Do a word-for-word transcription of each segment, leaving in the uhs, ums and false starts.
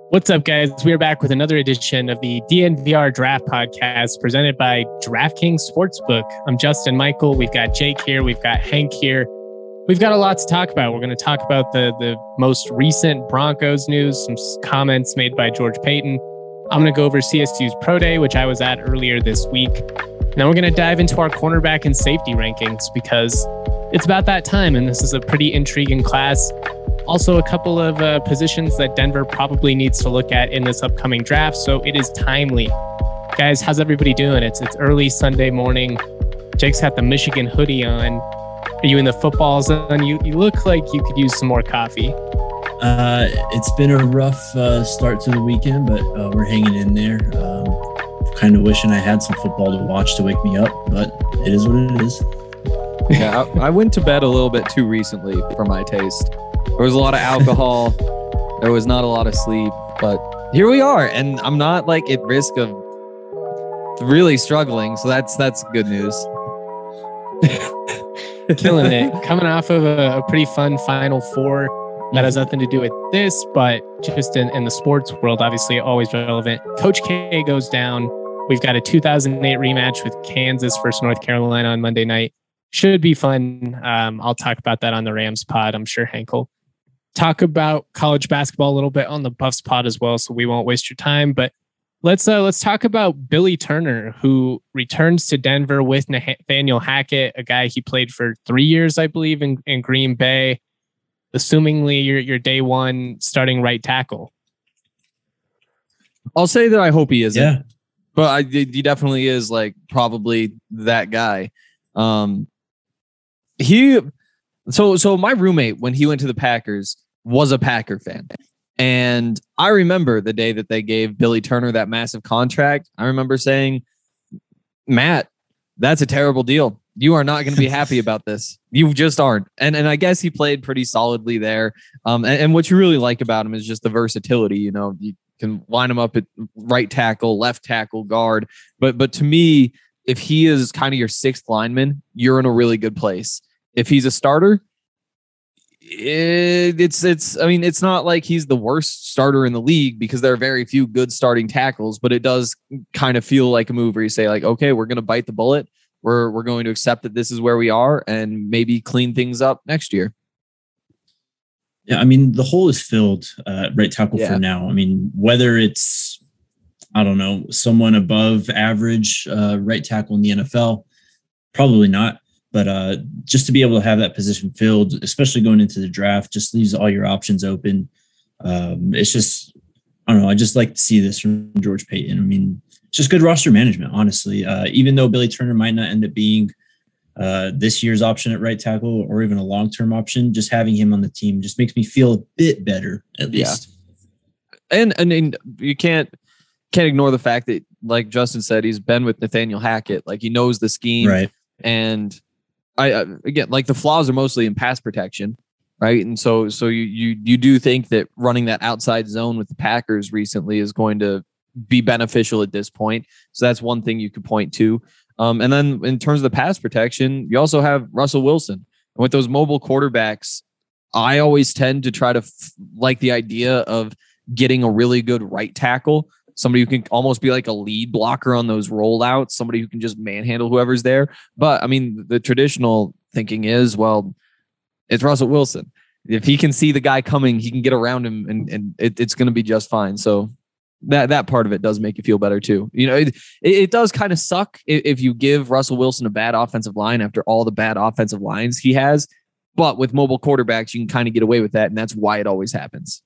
What's up, guys? We are back with another edition of the D N V R Draft Podcast presented by DraftKings Sportsbook. I'm Justin Michael. We've got Jake here. We've got Hank here. We've got a lot to talk about. We're going to talk about the, the most recent Broncos news, some comments made by George Paton. I'm going to go over C S U's Pro Day, which I was at earlier this week. Now we're going to dive into our cornerback and safety rankings because it's about that time, and this is a pretty intriguing class. Also, a couple of uh, positions that Denver probably needs to look at in this upcoming draft, so it is timely. Guys, how's everybody doing? It's it's early Sunday morning. Jake's got the Michigan hoodie on. Are you in the football zone? You you look like you could use some more coffee. Uh, it's been a rough uh, start to the weekend, but uh, we're hanging in there. Um, kind of wishing I had some football to watch to wake me up, but it is what it is. Yeah, I, I went to bed a little bit too recently for my taste. There was a lot of alcohol. There was not a lot of sleep, but here we are, and I'm not like at risk of really struggling. So that's that's good news. Killing it. Coming off of a, a pretty fun Final Four that has nothing to do with this, but just in, in the sports world, obviously always relevant. Coach K goes down. We've got a two thousand eight rematch with Kansas versus North Carolina on Monday night. Should be fun. Um, I'll talk about that on the Rams pod. I'm sure Hank will talk about college basketball a little bit on the Buffs pod as well, so we won't waste your time. But let's uh, let's talk about Billy Turner, who returns to Denver with Nathaniel Hackett, a guy he played for three years, I believe, in, in Green Bay. Assumingly, your your day one starting right tackle. I'll say that I hope he isn't. Yeah, but I, he definitely is like probably that guy. Um, he so so my roommate when he went to the Packers was a Packer fan. And I remember the day that they gave Billy Turner that massive contract. I remember saying, Matt, that's a terrible deal. You are not going to be happy about this. You just aren't. And and I guess he played pretty solidly there. Um, and, and what you really like about him is just the versatility. You know, you can line him up at right tackle, left tackle, guard. But but to me, if he is kind of your sixth lineman, you're in a really good place. If he's a starter, It, it's it's I mean it's not like he's the worst starter in the league because there are very few good starting tackles, but it does kind of feel like a move where you say like, okay, we're going to bite the bullet. We're we're going to accept that this is where we are and maybe clean things up next year. Yeah, I mean the hole is filled uh, right tackle Yeah. for now. I mean whether it's I don't know someone above average uh, right tackle in the N F L, probably not. But uh, just to be able to have that position filled, especially going into the draft, just leaves all your options open. Um, it's just, I don't know. I just like to see this from George Paton. I mean, it's just good roster management, honestly. Uh, even though Billy Turner might not end up being uh, this year's option at right tackle or even a long-term option, just having him on the team just makes me feel a bit better, at least. Yeah. And, and and you can't can't ignore the fact that, like Justin said, he's been with Nathaniel Hackett. Like he knows the scheme. Right. And I uh, again, like the flaws are mostly in pass protection, right? And so, so you you you do think that running that outside zone with the Packers recently is going to be beneficial at this point. So that's one thing you could point to. Um, and then in terms of the pass protection, you also have Russell Wilson. And with those mobile quarterbacks, I always tend to try to f- like the idea of getting a really good right tackle. Somebody who can almost be like a lead blocker on those rollouts, somebody who can just manhandle whoever's there. But I mean, the traditional thinking is, well, it's Russell Wilson. If he can see the guy coming, he can get around him and, and it, it's going to be just fine. So that, that part of it does make you feel better too. You know, it, it does kind of suck if, if you give Russell Wilson a bad offensive line after all the bad offensive lines he has. But with mobile quarterbacks, you can kind of get away with that. And that's why it always happens.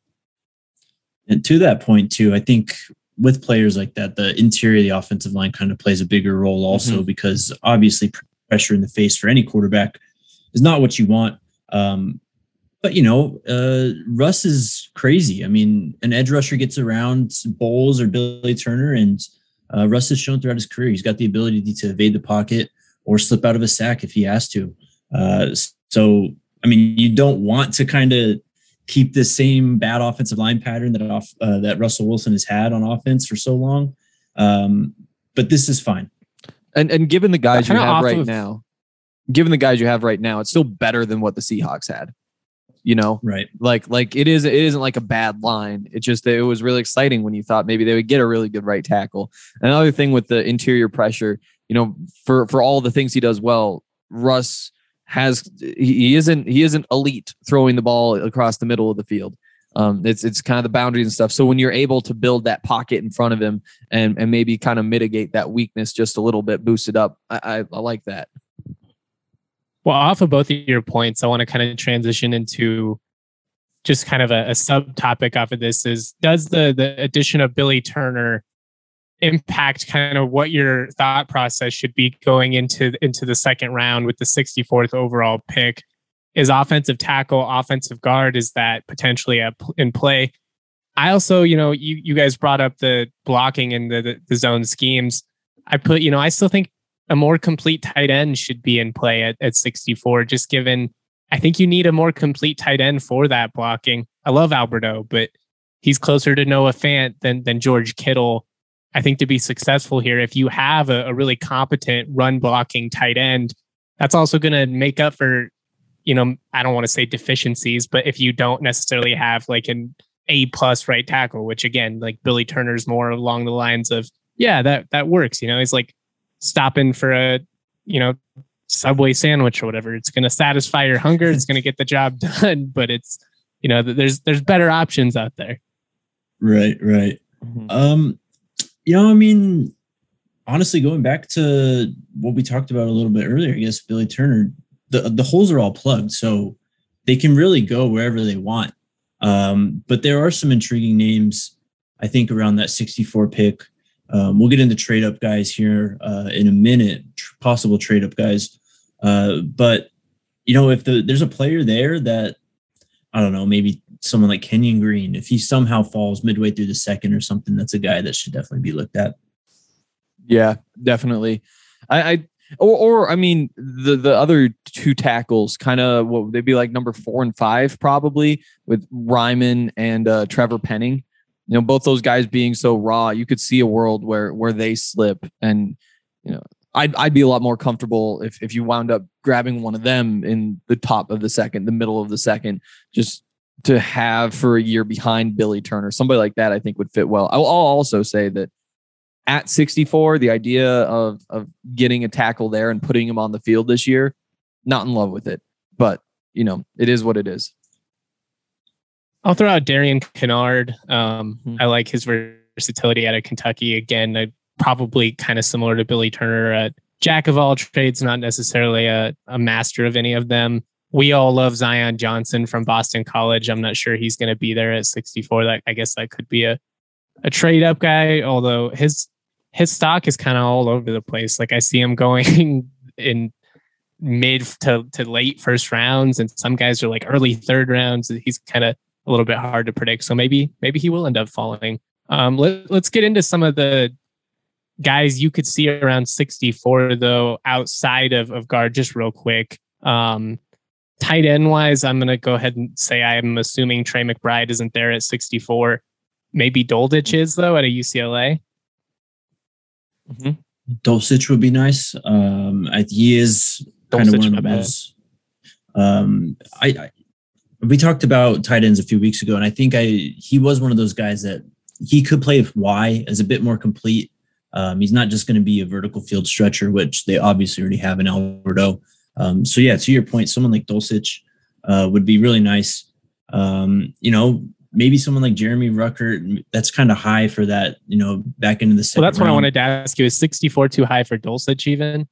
And to that point too, I think with players like that, the interior of the offensive line kind of plays a bigger role also mm-hmm. because obviously pressure in the face for any quarterback is not what you want. Um, but, you know, uh, Russ is crazy. I mean, an edge rusher gets around Bowles or Billy Turner, and uh, Russ has shown throughout his career he's got the ability to evade the pocket or slip out of a sack if he has to. Uh, so, I mean, you don't want to kind of keep the same bad offensive line pattern that off uh, that Russell Wilson has had on offense for so long. Um, but this is fine. And and given the guys you have right of, now, given the guys you have right now, it's still better than what the Seahawks had. You know, right? Like, like it is. It isn't like a bad line. It just it was really exciting when you thought maybe they would get a really good right tackle. Another thing with the interior pressure, you know, for for all the things he does well, Russ has he isn't he isn't elite throwing the ball across the middle of the field. Um, it's it's kind of the boundaries and stuff. So when you're able to build that pocket in front of him and and maybe kind of mitigate that weakness just a little bit, boost it up, I, I, I like that. Well, off of both of your points, I want to kind of transition into just kind of a, a subtopic off of this is, does the the addition of Billy Turner impact kind of what your thought process should be going into, into the second round with the sixty-fourth overall pick? Is offensive tackle, offensive guard, is that potentially a, in play? I also, you know, you, you guys brought up the blocking and the, the, the zone schemes. I put, you know, I still think a more complete tight end should be in play at, at sixty-four, just given, I think you need a more complete tight end for that blocking. I love Alberto, but he's closer to Noah Fant than, than George Kittle. I think to be successful here, if you have a, a really competent run blocking tight end, that's also going to make up for, you know, I don't want to say deficiencies, but if you don't necessarily have like an A plus right tackle, which again, like Billy Turner's more along the lines of, yeah, that, that works. You know, he's like stopping for a, you know, Subway sandwich or whatever. It's going to satisfy your hunger. It's going to get the job done, but it's, you know, there's, there's better options out there. Right. Right. Mm-hmm. Um, you know, I mean, honestly, going back to what we talked about a little bit earlier, I guess Billy Turner, the, the holes are all plugged, so they can really go wherever they want. Um, but there are some intriguing names, I think, around that sixty-four pick. Um, we'll get into trade up guys here uh, in a minute, tr- possible trade up guys. Uh, but, you know, if the, there's a player there that, I don't know, maybe someone like Kenyon Green, if he somehow falls midway through the second or something, that's a guy that should definitely be looked at. Yeah, definitely. I, I or, or I mean, the the other two tackles, kind of what would they be like, number four and five, probably, with Ryman and uh, Trevor Penning. You know, both those guys being so raw, you could see a world where where they slip, and you know, I'd I'd be a lot more comfortable if if you wound up grabbing one of them in the top of the second, the middle of the second, just to have for a year behind Billy Turner. Somebody like that, I think, would fit well. I'll, I'll also say that at sixty-four, the idea of of getting a tackle there and putting him on the field this year, not in love with it, but you know, it is what it is. I'll throw out Darian Kennard. Um, Hmm. I like his versatility out of Kentucky. Again, I, probably kind of similar to Billy Turner, a jack of all trades, not necessarily a, a master of any of them. We all love Zion Johnson from Boston College. I'm not sure he's going to be there at sixty-four. That I guess that could be a, a trade up guy, although his his stock is kind of all over the place. Like I see him going in mid to, to late first rounds, and some guys are like early third rounds. He's kind of a little bit hard to predict. So maybe maybe he will end up falling. Um, let, let's get into some of the guys you could see around sixty-four, though, outside of, of guard, just real quick. Um, tight end wise, I'm going to go ahead and say I'm assuming Trey McBride isn't there at sixty-four. Maybe Dolditch is, though, at a U C L A. Mm-hmm. Dulcich would be nice. Um, I, he is kind of one of those. Um, I, I we talked about tight ends a few weeks ago, and I think I he was one of those guys that he could play Y as a bit more complete. Um, he's not just going to be a vertical field stretcher, which they obviously already have in Alberto. Um, so yeah, to your point, someone like Dulcich uh, would be really nice. Um, you know, maybe someone like Jeremy Ruckert. That's kind of high for that. You know, back into the second. Well, that's round. what I wanted to ask you. Is sixty-four too high for Dulcich even?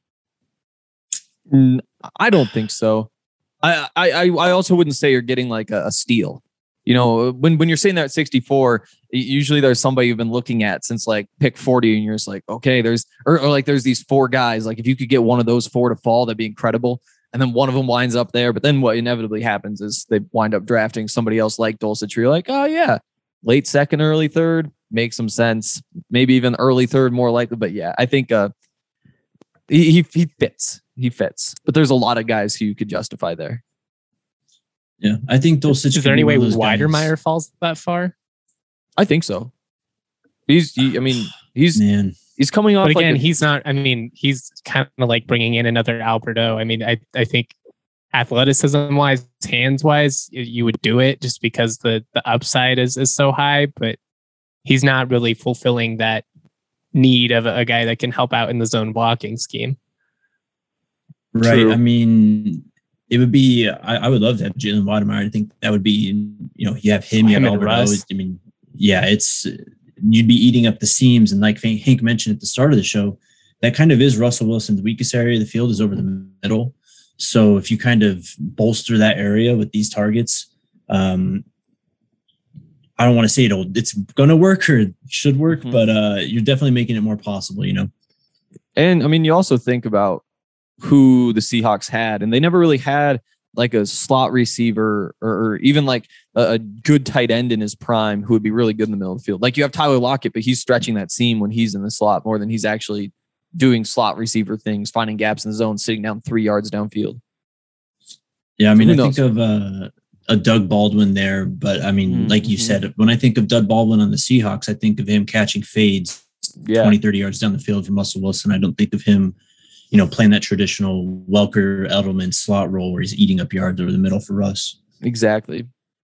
I don't think so. I, I, I also wouldn't say you're getting like a, a steal. You know, when, when you're saying that at sixty-four, usually there's somebody you've been looking at since like pick forty, and you're just like, okay, there's, or, or like there's these four guys. Like if you could get one of those four to fall, that'd be incredible. And then one of them winds up there. But then what inevitably happens is they wind up drafting somebody else like Dulcich. You're like, oh yeah, late second, early third, makes some sense. Maybe even early third more likely. But yeah, I think uh, he, he he fits. He fits. But there's a lot of guys who you could justify there. Yeah, I think Dulcich. Is there any way Weidermeyer falls that far? I think so. He's, he, I mean, he's man. He's coming off. But again, like a, he's not. I mean, he's kind of like bringing in another Alberto. I mean, I I think athleticism wise, hands wise, you would do it just because the the upside is is so high, but he's not really fulfilling that need of a, a guy that can help out in the zone blocking scheme. Right. True. I mean, it would be, I, I would love to have Jalen Wademeyer. I think that would be, you know, you have him, you Him have and Albert Russ. Owens. I mean, yeah, it's, you'd be eating up the seams. And like Hank mentioned at the start of the show, that kind of is Russell Wilson's weakest area of the field is over the middle. So if you kind of bolster that area with these targets, um, I don't want to say it'll, it's going to work or should work, mm-hmm. but uh, you're definitely making it more possible, you know? And I mean, you also think about who the Seahawks had, and they never really had like a slot receiver or, or even like a, a good tight end in his prime who would be really good in the middle of the field. Like you have Tyler Lockett, but he's stretching that seam when he's in the slot more than he's actually doing slot receiver things, finding gaps in the zone, sitting down three yards downfield. Yeah, I mean, I think of uh, a Doug Baldwin there, but I mean, mm-hmm. like you said, when I think of Doug Baldwin on the Seahawks, I think of him catching fades yeah. twenty, thirty yards down the field from Russell Wilson. I don't think of him, you know, playing that traditional Welker, Edelman slot role where he's eating up yards over the middle for Russ. Exactly.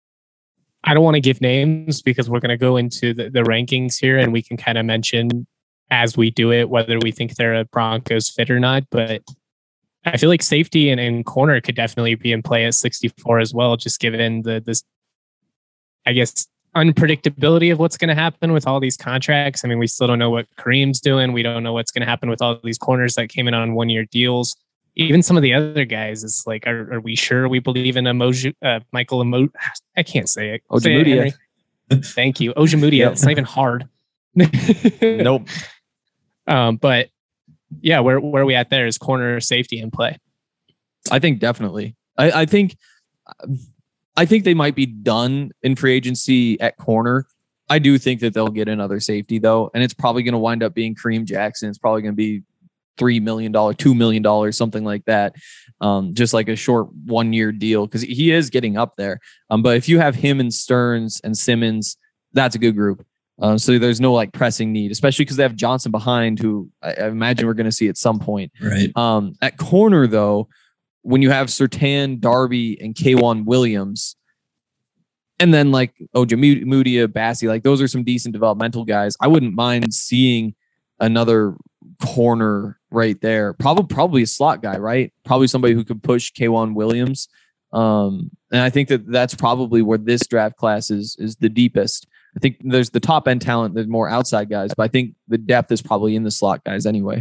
I don't want to give names because we're going to go into the, the rankings here and we can kind of mention as we do it, whether we think they're a Broncos fit or not. But I feel like safety and, and corner could definitely be in play at sixty-four as well, just given the, this, I guess, unpredictability of what's going to happen with all these contracts. I mean, we still don't know what Kareem's doing. We don't know what's going to happen with all these corners that came in on one-year deals. Even some of the other guys, it's like, are, are we sure we believe in Emoju, uh, Michael Emo? I can't say it. Ojemudia. It, Thank you. Ojemudia. Yep. It's not even hard. Nope. Um, but yeah, where where are we at there? Is corner safety in play? I think definitely. I, I think I think they might be done in free agency at corner. I do think that they'll get another safety though, and it's probably going to wind up being Kareem Jackson. It's probably going to be three million dollars, two million dollars, something like that. Um, just like a short one year deal because he is getting up there. Um, but if you have him and Stearns and Simmons, that's a good group. Uh, so there's no like pressing need, especially because they have Johnson behind, who I, I imagine we're going to see at some point. Right. Um, at corner, though, when you have Surtain, Darby, and K'Wan Williams, and then like Ojemudia, Bassey, like those are some decent developmental guys. I wouldn't mind seeing another corner right there. Probably, probably a slot guy, right? Probably somebody who could push K'Wan Williams. Um, and I think that that's probably where this draft class is is the deepest. I think there's the top end talent. There's more outside guys, but I think the depth is probably in the slot guys anyway.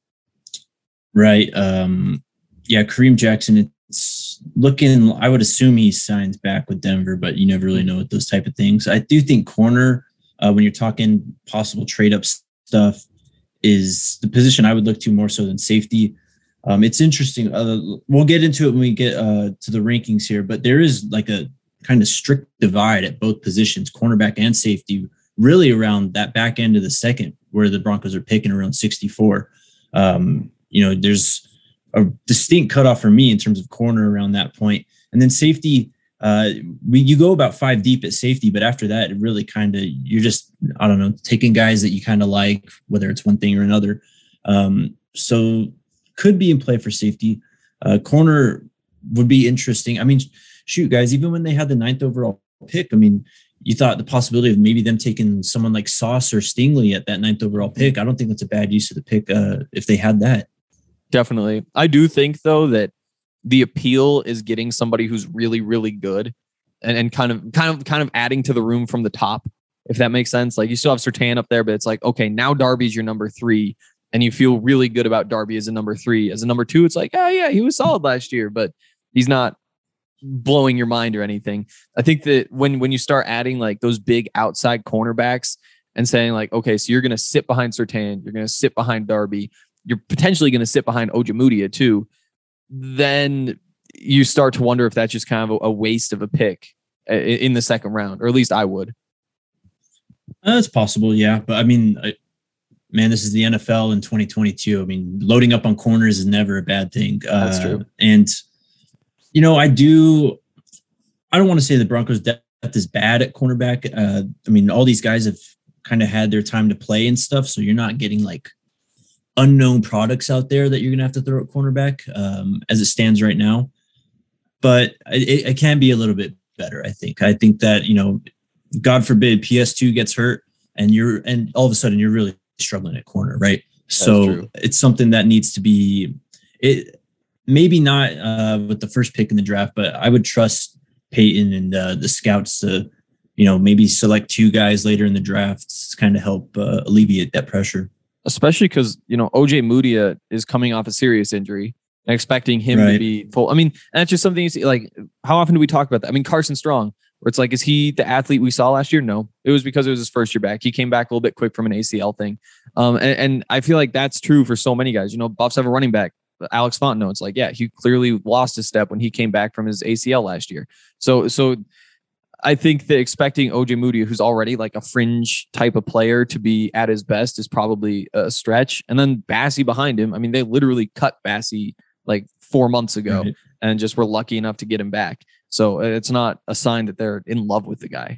Right. Um, yeah. Kareem Jackson, it's looking, I would assume he signs back with Denver, but you never really know with those type of things. I do think corner, uh, when you're talking possible trade up stuff, is the position I would look to more so than safety. Um, it's interesting. Uh, we'll get into it when we get uh, to the rankings here, but there is like a kind of strict divide at both positions, cornerback and safety, really around that back end of the second where the Broncos are picking around sixty-four. Um, you know, there's a distinct cutoff for me in terms of corner around that point. And then safety, uh, we, you go about five deep at safety, but after that, it really kind of, you're just, I don't know, taking guys that you kind of like, whether it's one thing or another. Um, so could be in play for safety. Uh, corner would be interesting. I mean, shoot, guys, even when they had the ninth overall pick, I mean, you thought the possibility of maybe them taking someone like Sauce or Stingley at that ninth overall pick. I don't think that's a bad use of the pick uh, if they had that. Definitely. I do think, though, that the appeal is getting somebody who's really, really good and, and kind of kind of kind of adding to the room from the top, if that makes sense. Like you still have Surtain up there, but it's like, okay, now Darby's your number three. And you feel really good about Darby as a number three. As a number two, it's like, oh, yeah, he was solid last year, but he's not blowing your mind or anything. I think that when when you start adding like those big outside cornerbacks and saying like, okay, so you're going to sit behind Surtain, you're going to sit behind Darby, you're potentially going to sit behind Ojemudia too, then you start to wonder if that's just kind of a, a waste of a pick in the second round, or at least I would. That's possible, yeah. But I mean, I, man, this is the N F L in twenty twenty-two. I mean, loading up on corners is never a bad thing. That's uh, true. And, you know, I do, I don't want to say the Broncos depth is bad at cornerback. Uh, I mean, all these guys have kind of had their time to play and stuff. So you're not getting like unknown products out there that you're going to have to throw at cornerback um, as it stands right now. but it, it can be a little bit better. I think. I think that, you know, God forbid P S two gets hurt and you're and all of a sudden you're really struggling at corner, right? So it's something that needs to be it. Maybe not uh, with the first pick in the draft, but I would trust Peyton and uh, the scouts to, you know, maybe select two guys later in the draft to kind of help uh, alleviate that pressure. Especially because, you know, O J Mudia is coming off a serious injury and expecting him right. to be full. I mean, and that's just something you see, like, how often do we talk about that? I mean, Carson Strong, where it's like, is he the athlete we saw last year? No, it was because it was his first year back. He came back a little bit quick from an A C L thing. Um, and, and I feel like that's true for so many guys. You know, Buffs have a running back, Alex Fontenot. It's like, yeah, he clearly lost his step when he came back from his A C L last year. So, so I think that expecting O J Mudia, who's already like a fringe type of player, to be at his best is probably a stretch. And then Bassey behind him. I mean, they literally cut Bassey like four months ago right. and just were lucky enough to get him back. So it's not a sign that they're in love with the guy.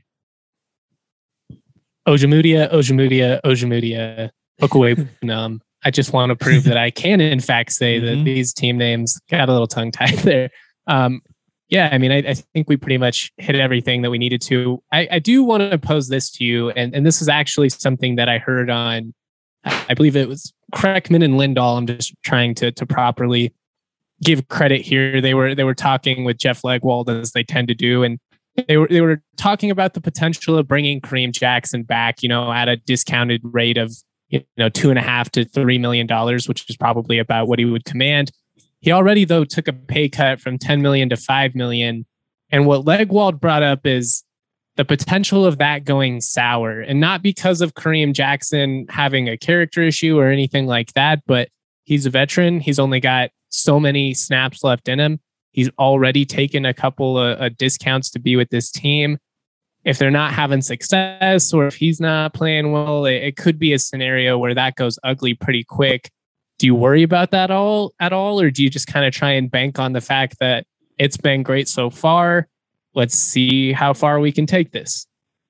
Ojemudia, Ojemudia, Ojemudia, look away from them. I just want to prove that I can, in fact, say mm-hmm. that these team names got a little tongue tied there. Um, yeah, I mean, I, I think we pretty much hit everything that we needed to. I, I do want to pose this to you, and, and this is actually something that I heard on, I believe it was Kreckman and Lindahl. I'm just trying to to properly give credit here. They were they were talking with Jeff Legwold, as they tend to do, and they were they were talking about the potential of bringing Kareem Jackson back, you know, at a discounted rate of, you know, two and a half to three million dollars, which is probably about what he would command. He already, though, took a pay cut from ten million to five million. And what Legwold brought up is the potential of that going sour, and not because of Kareem Jackson having a character issue or anything like that, but he's a veteran. He's only got so many snaps left in him. He's already taken a couple of, of discounts to be with this team. If they're not having success, or if he's not playing well, it, it could be a scenario where that goes ugly pretty quick. Do you worry about that all at all? Or do you just kind of try and bank on the fact that it's been great so far? Let's see how far we can take this.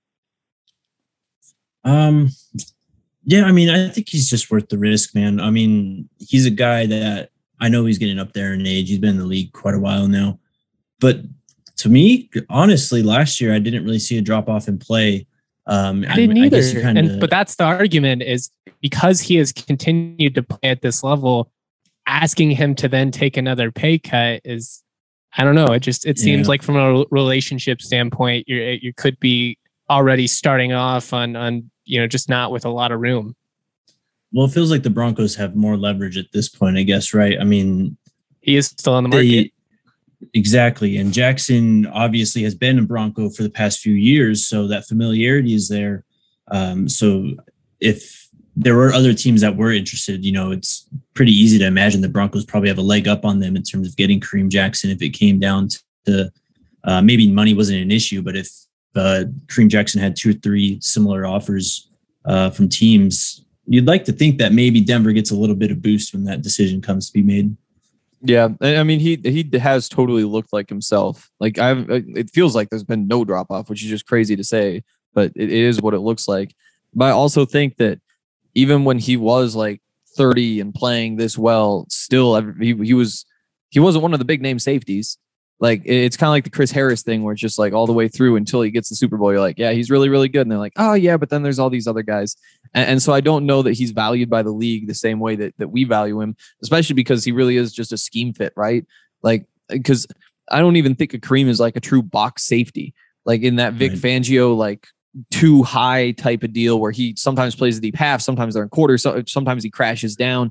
Um, yeah, I mean, I think he's just worth the risk, man. I mean, he's a guy that I know he's getting up there in age. He's been in the league quite a while now. But to me, honestly, last year, I didn't really see a drop off in play. Um, I didn't I, either. I guess you kinda... and, but that's the argument, is because he has continued to play at this level, asking him to then take another pay cut is, I don't know. It just, it seems yeah. like from a relationship standpoint, you you could be already starting off on, on, you know, just not with a lot of room. Well, it feels like the Broncos have more leverage at this point, I guess, right? I mean, he is still on the market. They, exactly. And Jackson obviously has been a Bronco for the past few years, so that familiarity is there. Um, so if there were other teams that were interested, you know, it's pretty easy to imagine the Broncos probably have a leg up on them in terms of getting Kareem Jackson if it came down to uh, maybe money wasn't an issue, but if uh, Kareem Jackson had two or three similar offers uh, from teams, you'd like to think that maybe Denver gets a little bit of boost when that decision comes to be made. Yeah, I mean, he he has totally looked like himself. Like I've, it feels like there's been no drop off, which is just crazy to say, but it is what it looks like. But I also think that even when he was like thirty and playing this well, still he he was he wasn't one of the big name safeties. Like it's kind of like the Chris Harris thing, where it's just like all the way through until he gets the Super Bowl, you're like, yeah, he's really, really good. And they're like, oh yeah, but then there's all these other guys. And, and so I don't know that he's valued by the league the same way that, that we value him, especially because he really is just a scheme fit, right? Like, because I don't even think a Kareem is like a true box safety, like in that Vic right. Fangio, like too high type of deal where he sometimes plays the deep half, sometimes they're in quarters, so sometimes he crashes down.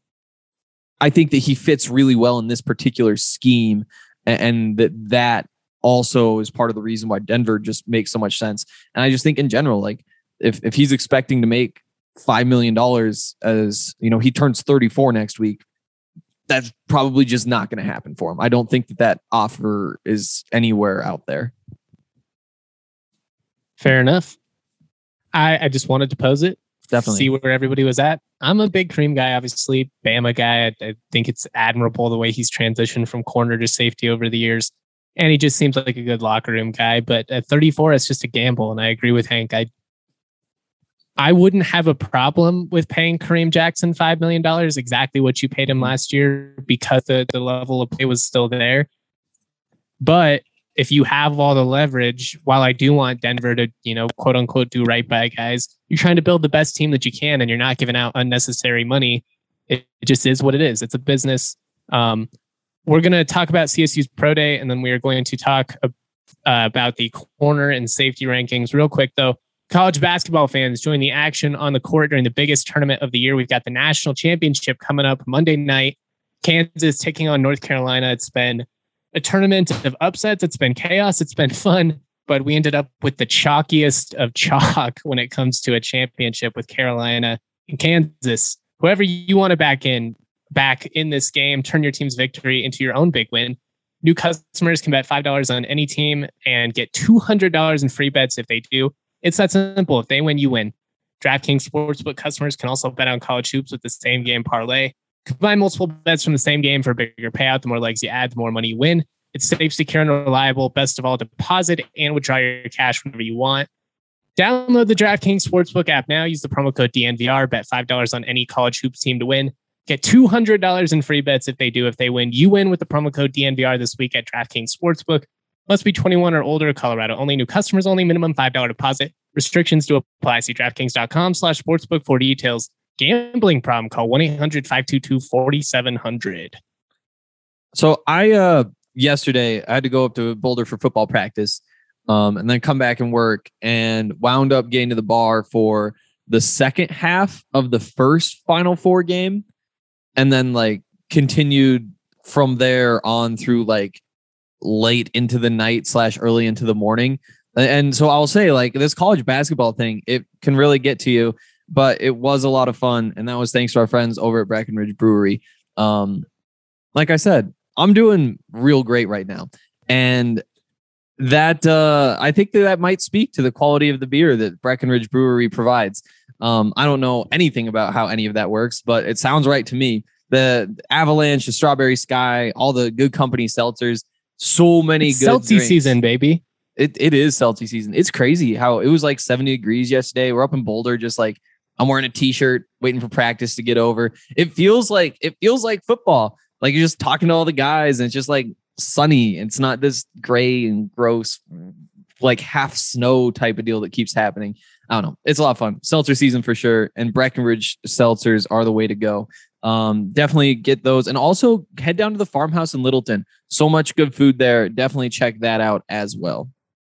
I think that he fits really well in this particular scheme. And that that also is part of the reason why Denver just makes so much sense. And I just think in general, like if, if he's expecting to make five million dollars as, you know, he turns thirty-four next week, that's probably just not going to happen for him. I don't think that that offer is anywhere out there. Fair enough. I, I just wanted to pose it. Definitely. See where everybody was at. I'm a big Kareem guy, obviously. Bama guy. I, I think it's admirable the way he's transitioned from corner to safety over the years. And he just seems like a good locker room guy. But at thirty-four, it's just a gamble. And I agree with Hank. I I wouldn't have a problem with paying Kareem Jackson five million dollars, exactly what you paid him last year, because the, the level of play was still there. But if you have all the leverage, while I do want Denver to, you know, quote unquote, do right by guys, you're trying to build the best team that you can and you're not giving out unnecessary money. It, it just is what it is. It's a business. Um, we're going to talk about C S U's Pro Day, and then we are going to talk uh, about the corner and safety rankings. Real quick, though, college basketball fans, join the action on the court during the biggest tournament of the year. We've got the national championship coming up Monday night. Kansas taking on North Carolina. It's been a tournament of upsets. It's been chaos. It's been fun, but we ended up with the chalkiest of chalk when it comes to a championship with Carolina and Kansas. Whoever you want to back in, back in this game, turn your team's victory into your own big win. New customers can bet five dollars on any team and get two hundred dollars in free bets if they do. It's that simple. If they win, you win. DraftKings Sportsbook customers can also bet on college hoops with the same game parlay. Combine multiple bets from the same game for a bigger payout. The more legs you add, the more money you win. It's safe, secure, and reliable. Best of all, deposit and withdraw your cash whenever you want. Download the DraftKings Sportsbook app now. Use the promo code D N V R. Bet five dollars on any college hoops team to win. Get two hundred dollars in free bets if they do. If they win, you win with the promo code D N V R this week at DraftKings Sportsbook. Must be twenty-one or older. Colorado only. New customers only. Minimum five dollars deposit. Restrictions do apply. See DraftKings.com slash sportsbook for details. Gambling problem? Call one eight hundred five two two four seven zero zero. So I, uh, yesterday, I had to go up to Boulder for football practice um, and then come back and work, and wound up getting to the bar for the second half of the first Final Four game. And then like continued from there on through like late into the night slash early into the morning. And so I'll say, like, this college basketball thing, it can really get to you, but it was a lot of fun. And that was thanks to our friends over at Breckenridge Brewery. Um, like I said, I'm doing real great right now. And that, uh, I think that, that might speak to the quality of the beer that Breckenridge Brewery provides. Um, I don't know anything about how any of that works, but it sounds right to me. The Avalanche, the Strawberry Sky, all the Good Company seltzers, so many it's good seltzy drinks. season, baby. It it is seltzy season. It's crazy how it was like seventy degrees yesterday. We're up in Boulder, just like I'm wearing a t-shirt, waiting for practice to get over. It feels like it feels like football. Like you're just talking to all the guys, and it's just like sunny. It's not this gray and gross, like half snow type of deal that keeps happening. I don't know. It's a lot of fun. Seltzer season for sure. And Breckenridge seltzers are the way to go. Um, definitely get those. And also head down to the farmhouse in Littleton. So much good food there. Definitely check that out as well.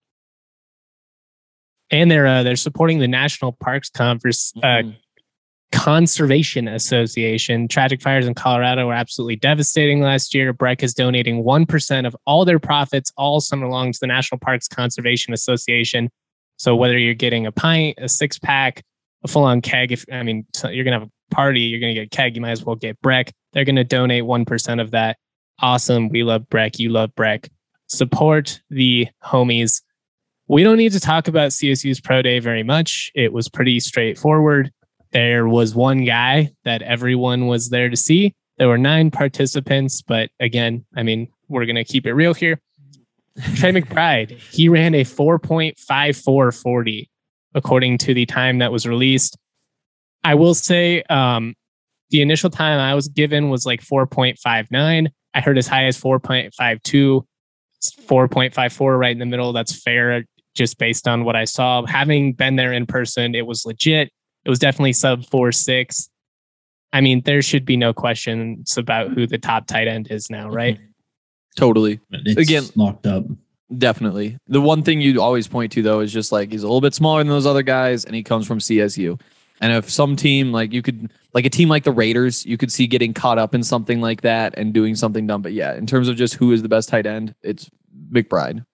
And they're uh, they're supporting the National Parks Converse, uh, mm-hmm. Conservation Association. Tragic fires in Colorado were absolutely devastating last year. Breck is donating one percent of all their profits all summer long to the National Parks Conservation Association. So whether you're getting a pint, a six pack, a full on keg, if I mean, you're going to have a party, you're going to get a keg, you might as well get Breck. They're going to donate one percent of that. Awesome. We love Breck. You love Breck. Support the homies. We don't need to talk about C S U's Pro Day very much. It was pretty straightforward. There was one guy that everyone was there to see. There were nine participants, but again, I mean, we're going to keep it real here. Trey McBride, he ran a four point five four forty according to the time that was released. I will say um, the initial time I was given was like four point five nine. I heard as high as four point five two, four point five four right in the middle. That's fair just based on what I saw. Having been there in person, it was legit. It was definitely sub four six. I mean, there should be no questions about who the top tight end is now, right? Totally. It's Again, locked up. Definitely. The one thing you always point to, though, is just like he's a little bit smaller than those other guys, and he comes from C S U. And if some team, like you could, like a team like the Raiders, you could see getting caught up in something like that and doing something dumb. But yeah, in terms of just who is the best tight end, it's McBride.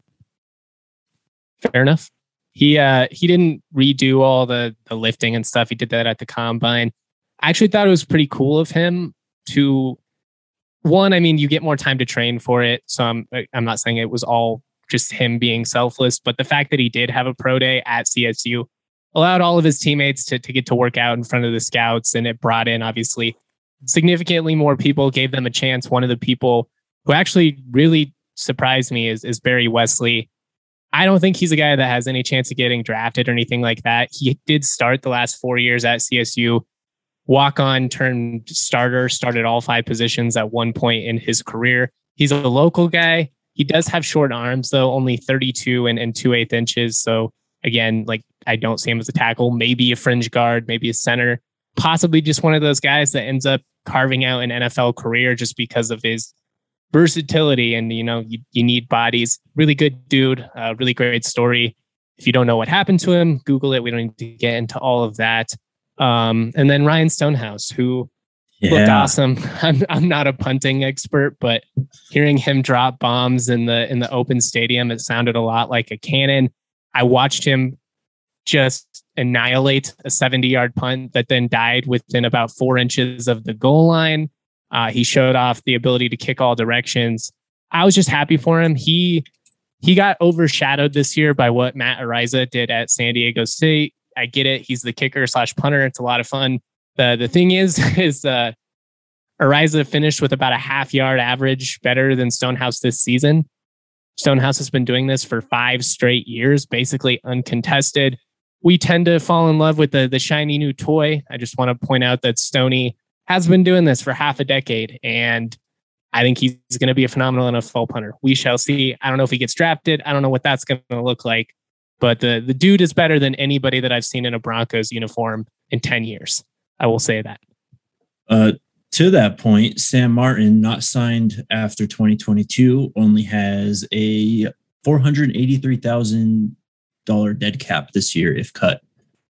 Fair enough. He uh he didn't redo all the the lifting and stuff. He did that at the combine. I actually thought it was pretty cool of him to. One, I mean, you get more time to train for it. So I'm I'm not saying it was all just him being selfless, but the fact that he did have a pro day at C S U allowed all of his teammates to, to get to work out in front of the scouts. And it brought in, obviously, significantly more people, gave them a chance. One of the people who actually really surprised me is, is Barry Wesley. I don't think he's a guy that has any chance of getting drafted or anything like that. He did start the last four years at C S U. Walk on, turned starter, started all five positions at one point in his career. He's a local guy. He does have short arms, though, only thirty-two and, and two eighth inches. So again, like I don't see him as a tackle, maybe a fringe guard, maybe a center, possibly just one of those guys that ends up carving out an N F L career just because of his versatility. And, you know, you, you need bodies. Really good dude, uh, really great story. If you don't know what happened to him, Google it. We don't need to get into all of that. Um, and then Ryan Stonehouse, who yeah. looked awesome. I'm I'm not a punting expert, but hearing him drop bombs in the in the open stadium, it sounded a lot like a cannon. I watched him just annihilate a seventy-yard punt that then died within about four inches of the goal line. Uh, he showed off the ability to kick all directions. I was just happy for him. He he got overshadowed this year by what Matt Araiza did at San Diego State. I get it. He's the kicker slash punter. It's a lot of fun. The the thing is, is uh, Araiza finished with about a half yard average better than Stonehouse this season. Stonehouse has been doing this for five straight years, basically uncontested. We tend to fall in love with the, the shiny new toy. I just want to point out that Stoney has been doing this for half a decade, and I think he's going to be a phenomenal N F L punter. We shall see. I don't know if he gets drafted. I don't know what that's going to look like. But the, the dude is better than anybody that I've seen in a Broncos uniform in ten years. I will say that. Uh, to that point, Sam Martin, not signed after twenty twenty-two, only has a four hundred eighty-three thousand dollars dead cap this year if cut.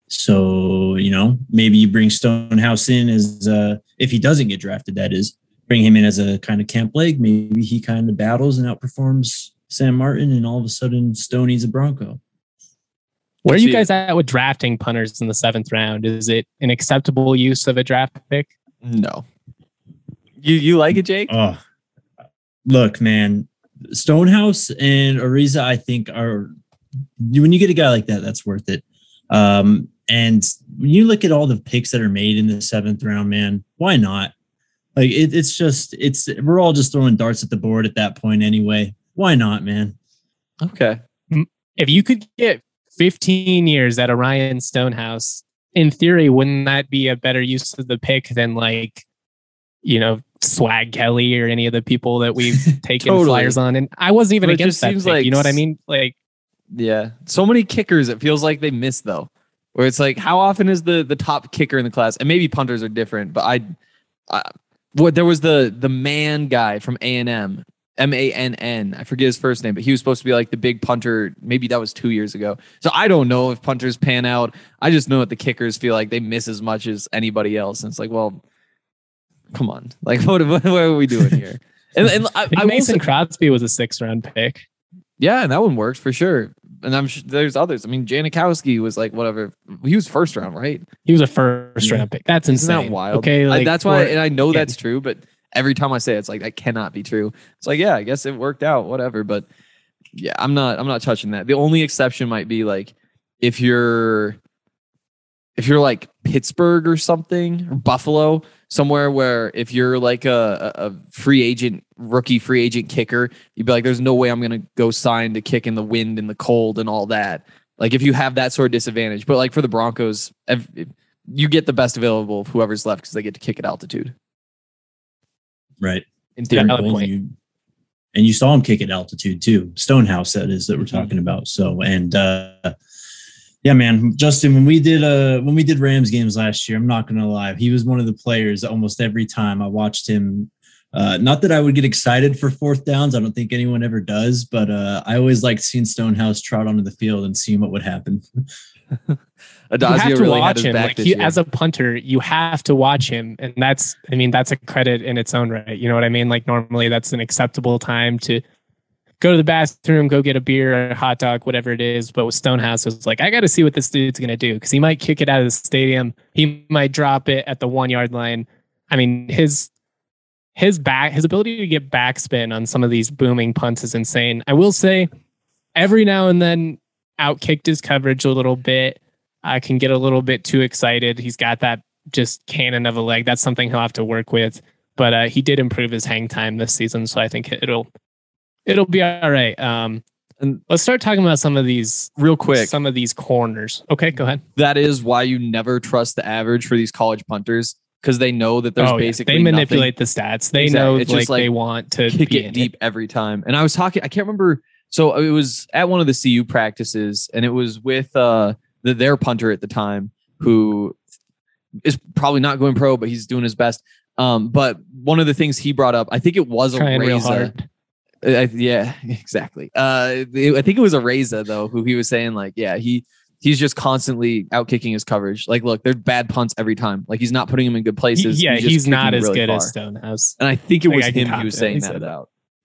So, you know, maybe you bring Stonehouse in as, uh, if he doesn't get drafted, that is, bring him in as a kind of camp leg. Maybe he kind of battles and outperforms Sam Martin, and all of a sudden Stoney's a Bronco. Where are you guys at with drafting punters in the seventh round? Is it an acceptable use of a draft pick? No. You you like it, Jake? Oh, look, man. Stonehouse and Araiza, I think, are when you get a guy like that, that's worth it. Um, and when you look at all the picks that are made in the seventh round, man, why not? Like it, it's just it's we're all just throwing darts at the board at that point anyway. Why not, man? Okay. If you could get fifteen years at a Ryan Stonehouse, in theory, wouldn't that be a better use of the pick than like, you know, Swag Kelly or any of the people that we've taken Totally. flyers on? And I wasn't even But it against just that seems pick, like- you know what I mean? Like, Yeah. So many kickers, it feels like they miss though. Where it's like, how often is the the top kicker in the class? And maybe punters are different, but I, I what there was the the man guy from A and M, M A N N. I forget his first name, but he was supposed to be like the big punter. Maybe that was two years ago. So I don't know if punters pan out. I just know that the kickers feel like they miss as much as anybody else. And it's like, well, come on. Like, what, what, what are we doing here? And, and I, I think I will Mason say- Crosby was a sixth round pick. yeah, and that one works for sure. And I'm sure there's others. I mean, Janikowski was like whatever. He was first round, right? He was a first round pick. That's Isn't insane. that wild? Okay, I- like, that's why, for- and I know yeah. that's true, but every time I say it, it's like that cannot be true. It's like, yeah, I guess it worked out, whatever. But yeah, I'm not, I'm not touching that. The only exception might be like if you're, if you're like Pittsburgh or something, or Buffalo, somewhere where if you're like a, a a free agent, rookie free agent kicker, you'd be like, there's no way I'm going to go sign to kick in the wind and the cold and all that. Like if you have that sort of disadvantage, but like for the Broncos, ev- you get the best available of whoever's left because they get to kick at altitude. Right. In theory. Valid And point. you, and you saw him kick at altitude too. Stonehouse, that is, that we're talking about. So, and uh, yeah, man, Justin, when we did uh when we did Rams games last year, I'm not gonna lie, he was one of the players that almost every time I watched him. Uh, not that I would get excited for fourth downs. I don't think anyone ever does, but uh, I always liked seeing Stonehouse trot onto the field and seeing what would happen. You Adazio have to really had watch his him. back Like this you, year. as a punter, you have to watch him, and that's, I mean, that's a credit in its own right. You know what I mean? Like normally, that's an acceptable time to go to the bathroom, go get a beer, a hot dog, whatever it is. But with Stonehouse, it's like I got to see what this dude's gonna do because he might kick it out of the stadium, he might drop it at the one yard line. I mean, his his back, his ability to get backspin on some of these booming punts is insane. I will say, every now and then, outkicked his coverage a little bit. I can get a little bit too excited. He's got that just cannon of a leg. That's something he'll have to work with. But uh, he did improve his hang time this season, so I think it'll it'll be all right. Um, and let's start talking about some of these Real quick. Some of these corners. Okay, go ahead. That is why you never trust the average for these college punters. because they know that there's oh, basically yeah. They manipulate nothing. the stats. They Exactly. know It's like, just like they want to kick be it in deep it. every time. And I was talking, I can't remember. So it was at one of the C U practices, and it was with uh, the, their punter at the time, who is probably not going pro, but he's doing his best. Um, but one of the things he brought up, I think it was Trying a real Reza. hard. Uh, yeah, exactly. Uh, it- I think it was a Reza though, who he was saying like, yeah, he he's just constantly out kicking his coverage. Like, look, there's bad punts every time. Like he's not putting him in good places. He- yeah, just he's not kicking as really good far. as Stonehouse. And I think it Like, was I can him he was saying confidently that say that. about.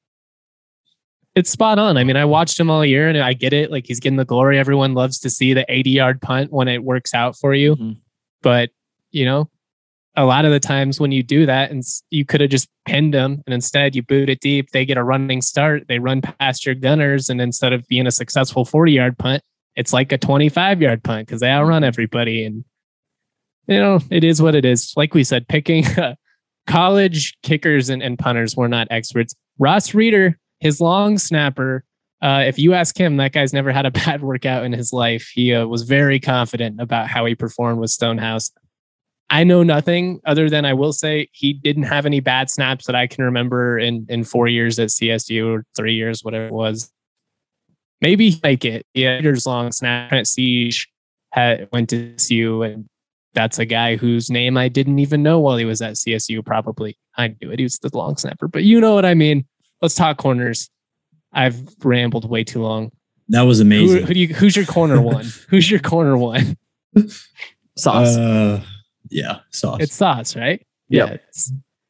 It's spot on. I mean, I watched him all year and I get it. Like he's getting the glory. Everyone loves to see the eighty yard punt when it works out for you. Mhm. But, you know, a lot of the times when you do that and you could have just pinned them and instead you boot it deep, they get a running start. They run past your gunners. And instead of being a successful forty yard punt, it's like a twenty-five yard punt because they outrun everybody. And, you know, it is what it is. Like we said, picking college kickers and, and punters were not experts. Ross Reeder, his long snapper, uh, if you ask him, that guy's never had a bad workout in his life. He uh, was very confident about how he performed with Stonehouse. I know nothing other than I will say he didn't have any bad snaps that I can remember in, in four years at C S U or three years, whatever it was. Maybe he might get yeah, years long snap at Siege had went to C S U, and that's a guy whose name I didn't even know while he was at C S U. Probably I knew it. He was the long snapper, but you know what I mean. Let's talk corners. I've rambled way too long. That was amazing. Who, who do you? Who's your corner one? Who's your corner one? Sauce. Uh, yeah, Sauce. It's Sauce, right? Yep. Yeah. It's,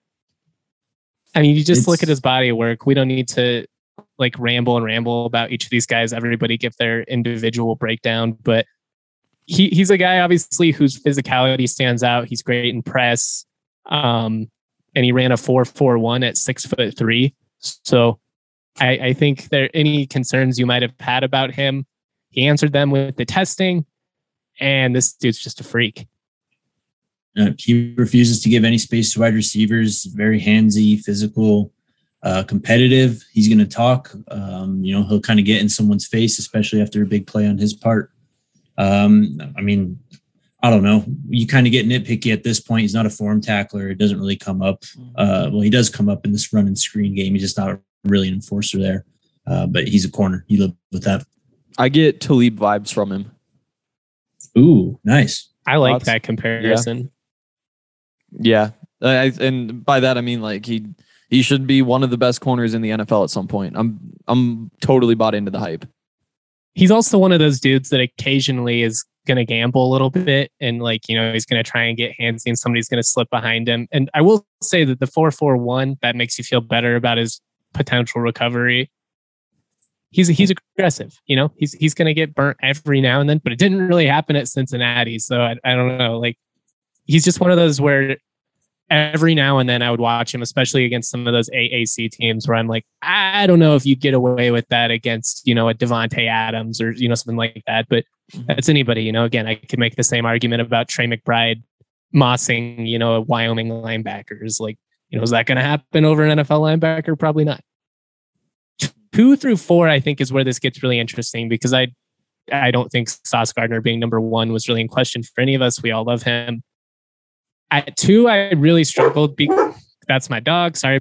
I mean, you just It's- look at his body of work. We don't need to like ramble and ramble about each of these guys. Everybody give their individual breakdown, but he he's a guy obviously whose physicality stands out. He's great in press, um, and he ran a four four one at six foot three. So I, I think there any concerns you might have had about him, he answered them with the testing, and this dude's just a freak. Uh, he refuses to give any space to wide receivers. Very handsy, physical, uh, competitive. He's going to talk. Um, you know, he'll kind of get in someone's face, especially after a big play on his part. Um, I mean, I don't know. You kind of get nitpicky at this point. He's not a form tackler. It doesn't really come up. Uh, well, he does come up in this run and screen game. He's just not really an enforcer there. Uh, but he's a corner. You live with that. I get Talib vibes from him. Ooh, nice. I like Thoughts? that comparison. Yeah. I, and by that, I mean, like he, he should be one of the best corners in the N F L at some point. I'm, I'm totally bought into the hype. He's also one of those dudes that occasionally is going to gamble a little bit and like, you know, he's going to try and get handsy and somebody's going to slip behind him. And I will say that the four four one, that makes you feel better about his potential recovery. He's he's aggressive, you know, he's he's going to get burnt every now and then, but it didn't really happen at Cincinnati. So I, I don't know. Like he's just one of those where every now and then I would watch him, especially against some of those A A C teams where I'm like, I don't know if you'd get away with that against, you know, a Devontae Adams or, you know, something like that. But that's anybody, you know, again, I could make the same argument about Trey McBride mossing, you know, Wyoming linebackers. Like, you know, is that going to happen over an N F L linebacker? Probably not. Two through four, I think, is where this gets really interesting because I, I don't think Sauce Gardner being number one was really in question for any of us. We all love him. At two, I really struggled. Be- That's my dog. Sorry.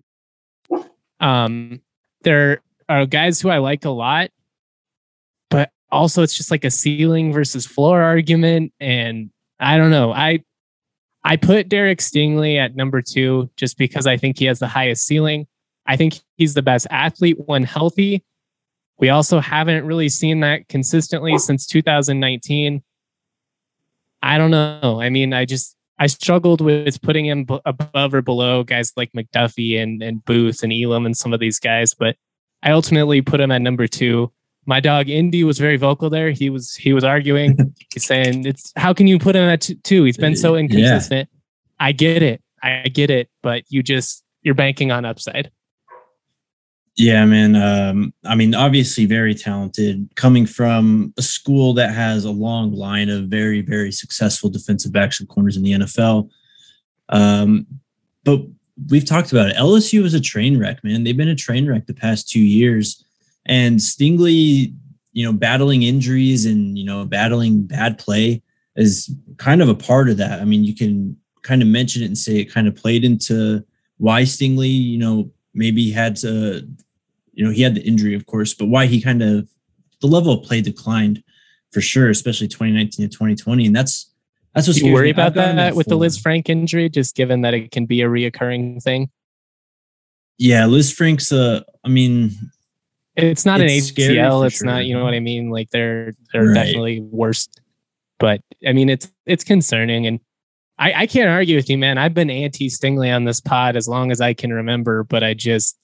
Um, there are guys who I like a lot, but also it's just like a ceiling versus floor argument. And I don't know. I I put Derek Stingley at number two just because I think he has the highest ceiling. I think he's the best athlete when healthy. We also haven't really seen that consistently since two thousand nineteen. I don't know. I mean, I just I struggled with putting him b- above or below guys like McDuffie and, and Booth and Elam and some of these guys, but I ultimately put him at number two. My dog Indy was very vocal there. He was he was arguing. He's saying, "It's how can you put him at t- two? He's been so inconsistent." Yeah. I get it, I get it, but you just you're banking on upside. Yeah, man. Um, I mean, obviously very talented, coming from a school that has a long line of very, very successful defensive backs and corners in the N F L. Um, but we've talked about it. L S U is a train wreck, man. They've been a train wreck the past two years. And Stingley, you know, battling injuries and, you know, battling bad play is kind of a part of that. I mean, you can kind of mention it and say it kind of played into why Stingley, you know, maybe had to, you know, he had the injury, of course, but why he kind of, the level of play declined for sure, especially twenty nineteen to twenty twenty. And that's, that's what you worry about that with the Lisfranc injury, just given that it can be a reoccurring thing. Yeah. Lisfranc's, uh, I mean, it's not it's an A C L. It's sure. not, you know what I mean? Like they're, they're Right. definitely worse, but I mean, it's, it's concerning. And I, I can't argue with you, man. I've been anti Stingley on this pod as long as I can remember, but I just,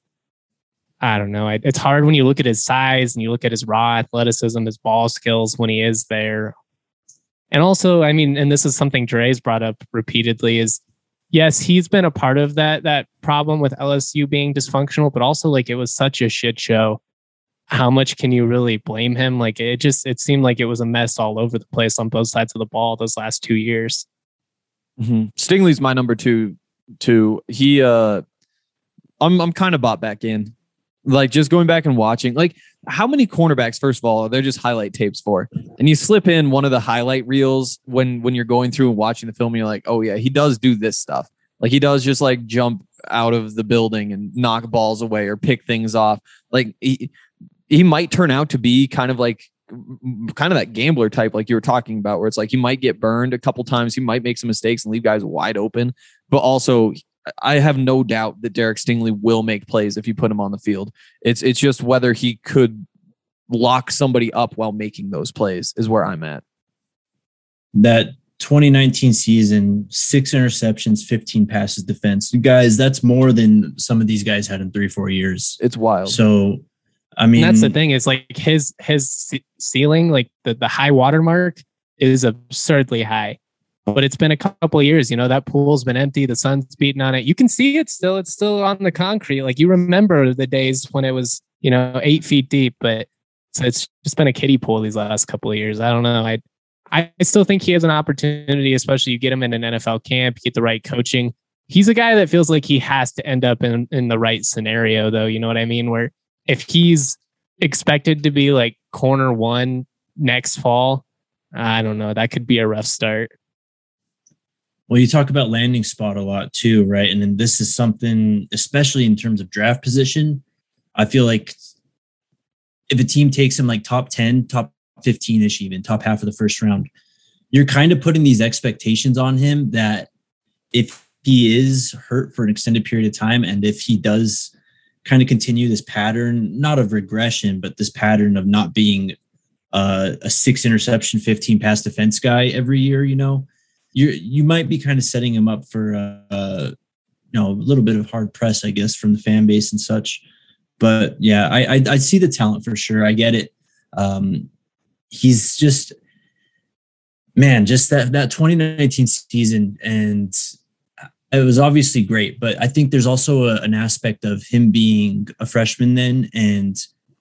I don't know. I, it's hard when you look at his size and you look at his raw athleticism, his ball skills when he is there. And also, I mean, and this is something Dre's brought up repeatedly is, yes, he's been a part of that, that problem with L S U being dysfunctional, but also like it was such a shit show. How much can you really blame him? Like it just, it seemed like it was a mess all over the place on both sides of the ball those last two years. Mm-hmm. Stingley's my number two, too. He, uh, I'm, I'm kind of bought back in. Like just going back and watching, like how many cornerbacks, first of all, they're just highlight tapes for, and you slip in one of the highlight reels when, when you're going through and watching the film, and you're like, oh yeah, he does do this stuff. Like he does just like jump out of the building and knock balls away or pick things off. Like he, he might turn out to be kind of like, kind of that gambler type, like you were talking about, where it's like, he might get burned a couple times. He might make some mistakes and leave guys wide open, but also I have no doubt that Derek Stingley will make plays if you put him on the field. It's it's just whether he could lock somebody up while making those plays is where I'm at. That twenty nineteen season, six interceptions, fifteen passes defense. You guys, that's more than some of these guys had in three, four years. It's wild. So, I mean, and that's the thing is like his his ceiling, like the, the high water mark is absurdly high. But it's been a couple of years, you know, that pool's been empty. The sun's beating on it. You can see it still. It's still on the concrete. Like you remember the days when it was, you know, eight feet deep, but so it's just been a kiddie pool these last couple of years. I don't know. I, I still think he has an opportunity, especially you get him in an N F L camp, you get the right coaching. He's a guy that feels like he has to end up in, in the right scenario though. You know what I mean? Where if he's expected to be like corner one next fall, I don't know. That could be a rough start. Well, you talk about landing spot a lot too, right? And then this is something, especially in terms of draft position, I feel like if a team takes him like top ten, top fifteen-ish, even top half of the first round, you're kind of putting these expectations on him that if he is hurt for an extended period of time, and if he does kind of continue this pattern, not of regression, but this pattern of not being uh, a six interception, fifteen pass defense guy every year, you know, you you might be kind of setting him up for uh, you know, a little bit of hard press, I guess, from the fan base and such. But yeah, I I, I see the talent for sure. I get it. Um, he's just, man, just that that twenty nineteen season, and it was obviously great. But I think there's also a, an aspect of him being a freshman then, and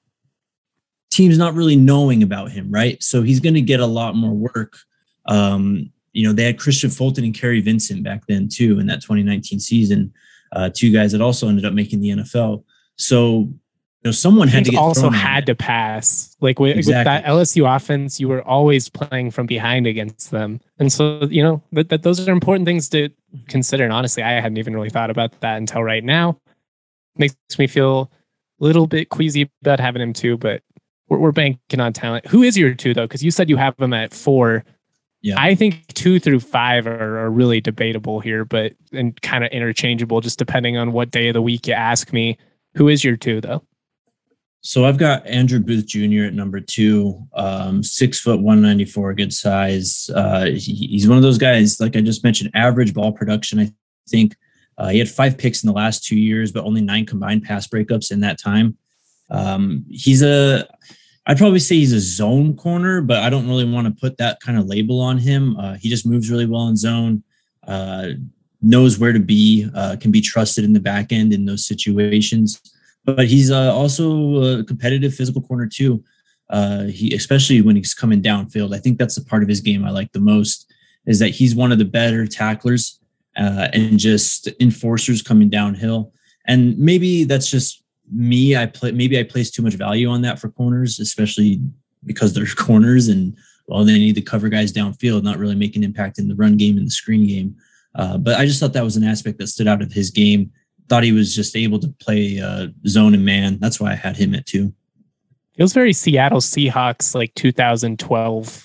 teams not really knowing about him, right? So he's going to get a lot more work. Um, You know, they had Christian Fulton and Kerry Vincent back then too in that twenty nineteen season. Uh, two guys that also ended up making the N F L. So, you know, someone had to get also thrown had to pass. Like with, exactly. with that L S U offense, you were always playing from behind against them, and so you know that, that those are important things to consider. And honestly, I hadn't even really thought about that until right now. Makes me feel a little bit queasy about having him too, but we're, we're banking on talent. Who is your two though? Because you said you have him at four. Yeah, I think two through five are, are really debatable here, but and kind of interchangeable, just depending on what day of the week you ask me. Who is your two, though? So I've got Andrew Booth Junior at number two, um, six foot, one ninety-four, good size. Uh, he, he's one of those guys, like I just mentioned, average ball production. I think uh, he had five picks in the last two years, but only nine combined pass breakups in that time. Um, he's a I'd probably say he's a zone corner, but I don't really want to put that kind of label on him. Uh, he just moves really well in zone, uh, knows where to be, uh, can be trusted in the back end in those situations. But he's uh, also a competitive physical corner too. Uh, he, especially when he's coming downfield. I think that's the part of his game I like the most, is that he's one of the better tacklers uh, and just enforcers coming downhill. And maybe that's just me. I play, maybe I place too much value on that for corners, especially because they're corners and well, they need to cover guys downfield, not really make an impact in the run game and the screen game. Uh, but I just thought that was an aspect that stood out of his game. Thought he was just able to play uh, zone and man. That's why I had him at two. Feels very Seattle Seahawks, like two thousand twelve.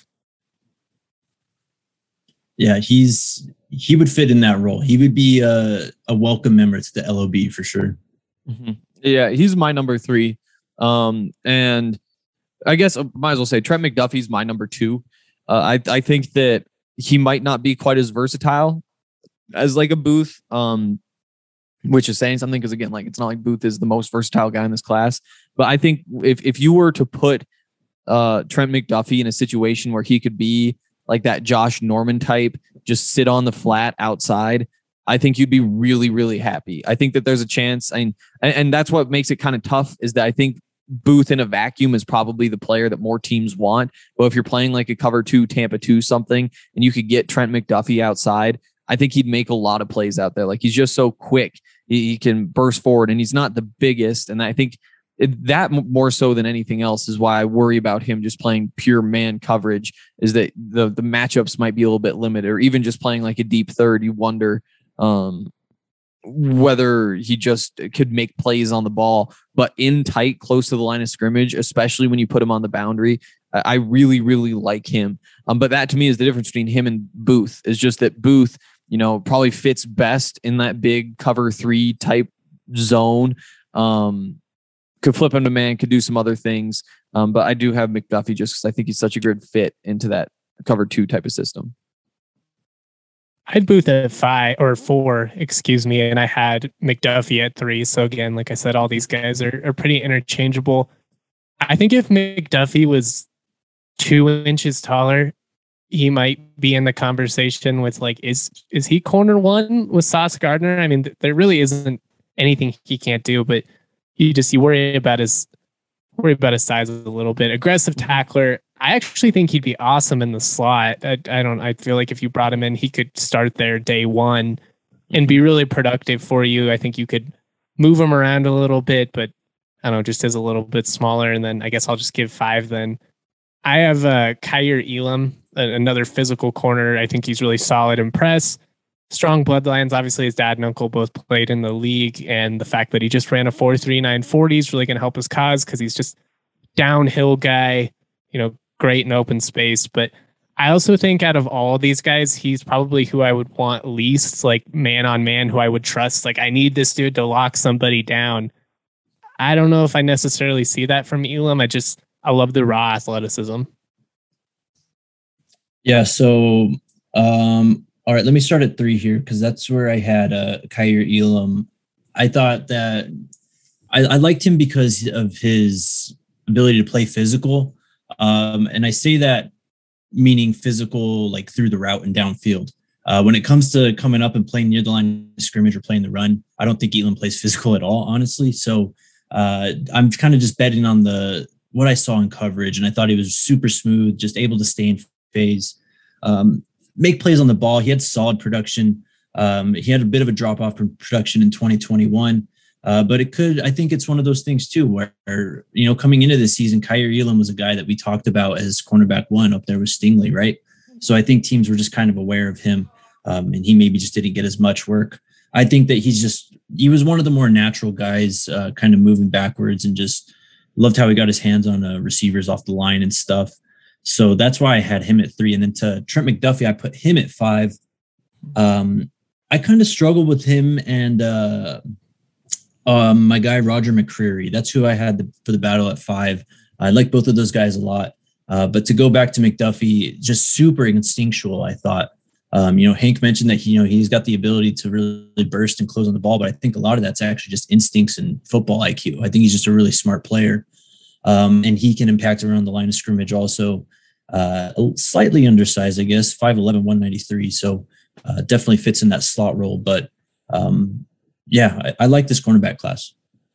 Yeah, he's he would fit in that role. He would be a, a welcome member to the L O B for sure. Mm-hmm. Yeah, he's my number three. Um, and I guess I might as well say Trent McDuffie's my number two. Uh, I I think that he might not be quite as versatile as like a Booth, um, which is saying something because again, like it's not like Booth is the most versatile guy in this class. But I think if if you were to put uh, Trent McDuffie in a situation where he could be like that Josh Norman type, just sit on the flat outside, I think you'd be really, really happy. I think that there's a chance. I mean, and, and that's what makes it kind of tough is that I think Booth in a vacuum is probably the player that more teams want. But if you're playing like a cover two, Tampa two something, and you could get Trent McDuffie outside, I think he'd make a lot of plays out there. Like he's just so quick. He, he can burst forward and he's not the biggest. And I think it, that more so than anything else is why I worry about him just playing pure man coverage is that the, the matchups might be a little bit limited, or even just playing like a deep third. You wonder um, whether he just could make plays on the ball, but in tight, close to the line of scrimmage, especially when you put him on the boundary. I really, really like him. Um, but that to me is the difference between him and Booth is just that Booth, you know, probably fits best in that big cover three type zone. Um, could flip him to man, could do some other things. Um, but I do have McDuffie just because I think he's such a good fit into that cover two type of system. I had Booth at five or four, excuse me, and I had McDuffie at three. So again, like I said, all these guys are, are pretty interchangeable. I think if McDuffie was two inches taller, he might be in the conversation with like, is is he corner one with Sauce Gardner? I mean, th- there really isn't anything he can't do, but you just you worry about his worry about his size a little bit. Aggressive tackler. I actually think he'd be awesome in the slot. I, I don't. I feel like if you brought him in, he could start there day one and be really productive for you. I think you could move him around a little bit, but I don't know, just as a little bit smaller. And then I guess I'll just give five then. I have uh, Kaiir Elam, another physical corner. I think he's really solid in press. Strong bloodlines. Obviously, his dad and uncle both played in the league, and the fact that he just ran a four three nine forty is really going to help his cause because he's just downhill guy, you know, great in open space. But I also think out of all these guys, he's probably who I would want least, like man on man, who I would trust. Like, I need this dude to lock somebody down. I don't know if I necessarily see that from Elam. I just, I love the raw athleticism. Yeah. So, um, all right, let me start at three here because that's where I had uh, Kaiir Elam. I thought that I, I liked him because of his ability to play physical. Um, and I say that meaning physical, like through the route and downfield. Uh, when it comes to coming up and playing near the line of scrimmage or playing the run, I don't think Elam plays physical at all, honestly. So uh, I'm kind of just betting on the what I saw in coverage, and I thought he was super smooth, just able to stay in phase. Um, make plays on the ball. He had solid production. Um, he had a bit of a drop off from production in twenty twenty-one, uh, but it could, I think it's one of those things too, where, you know, coming into this season, Kaiir Elam was a guy that we talked about as cornerback one up there with Stingley, right? So I think teams were just kind of aware of him, um, and he maybe just didn't get as much work. I think that he's just, he was one of the more natural guys, uh, kind of moving backwards, and just loved how he got his hands on uh, receivers off the line and stuff. So that's why I had him at three. And then to Trent McDuffie, I put him at five. Um, I kind of struggled with him and uh, um, my guy, Roger McCreary. That's who I had the, for the battle at five. I like both of those guys a lot. Uh, but to go back to McDuffie, just super instinctual, I thought. Um, you know, Hank mentioned that he, you know, he's got the ability to really burst and close on the ball, but I think a lot of that's actually just instincts and football I Q. I think he's just a really smart player. Um, and he can impact around the line of scrimmage also. Uh, slightly undersized, I guess, five eleven, one ninety-three. So uh, definitely fits in that slot role. But um, yeah, I, I like this cornerback class.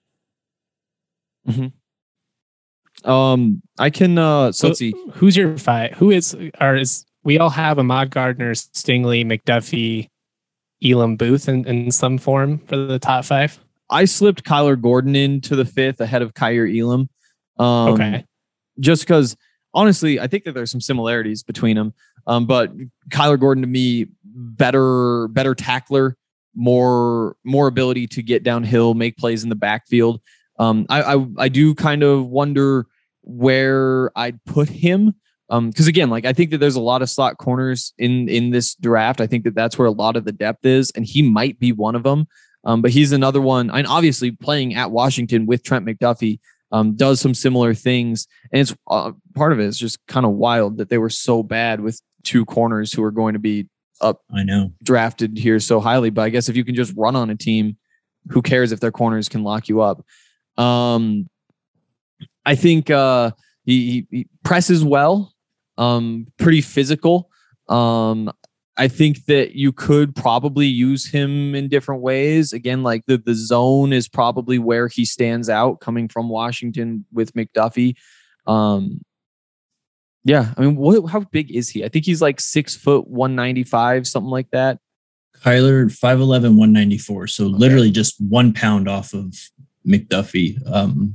Mm-hmm. Um, I can, uh, so, so let's see. Who's your five? Who is, or is, we all have Ahmad Gardner, Stingley, McDuffie, Elam, Booth in, in some form for the top five? I slipped Kyler Gordon into the fifth ahead of Kaiir Elam. Um, okay. Just because, honestly, I think that there's some similarities between them. Um, but Kyler Gordon to me better better tackler, more more ability to get downhill, make plays in the backfield. Um, I, I I do kind of wonder where I'd put him. Um, because again, like I think that there's a lot of slot corners in in this draft. I think that that's where a lot of the depth is, and he might be one of them. Um, but he's another one. And obviously, playing at Washington with Trent McDuffie um, does some similar things, and it's uh, part of it is just kind of wild that they were so bad with two corners who are going to be up. I know drafted here so highly. But I guess if you can just run on a team, who cares if their corners can lock you up? Um, I think uh, he, he presses well. Um, pretty physical. Um, I think that you could probably use him in different ways. Again, like the, the zone is probably where he stands out coming from Washington with McDuffie. Um, yeah. I mean, what, how big is he? I think he's like six foot, one ninety-five, something like that. Kyler, five eleven, one ninety-four. So okay. Literally just one pound off of McDuffie. Um,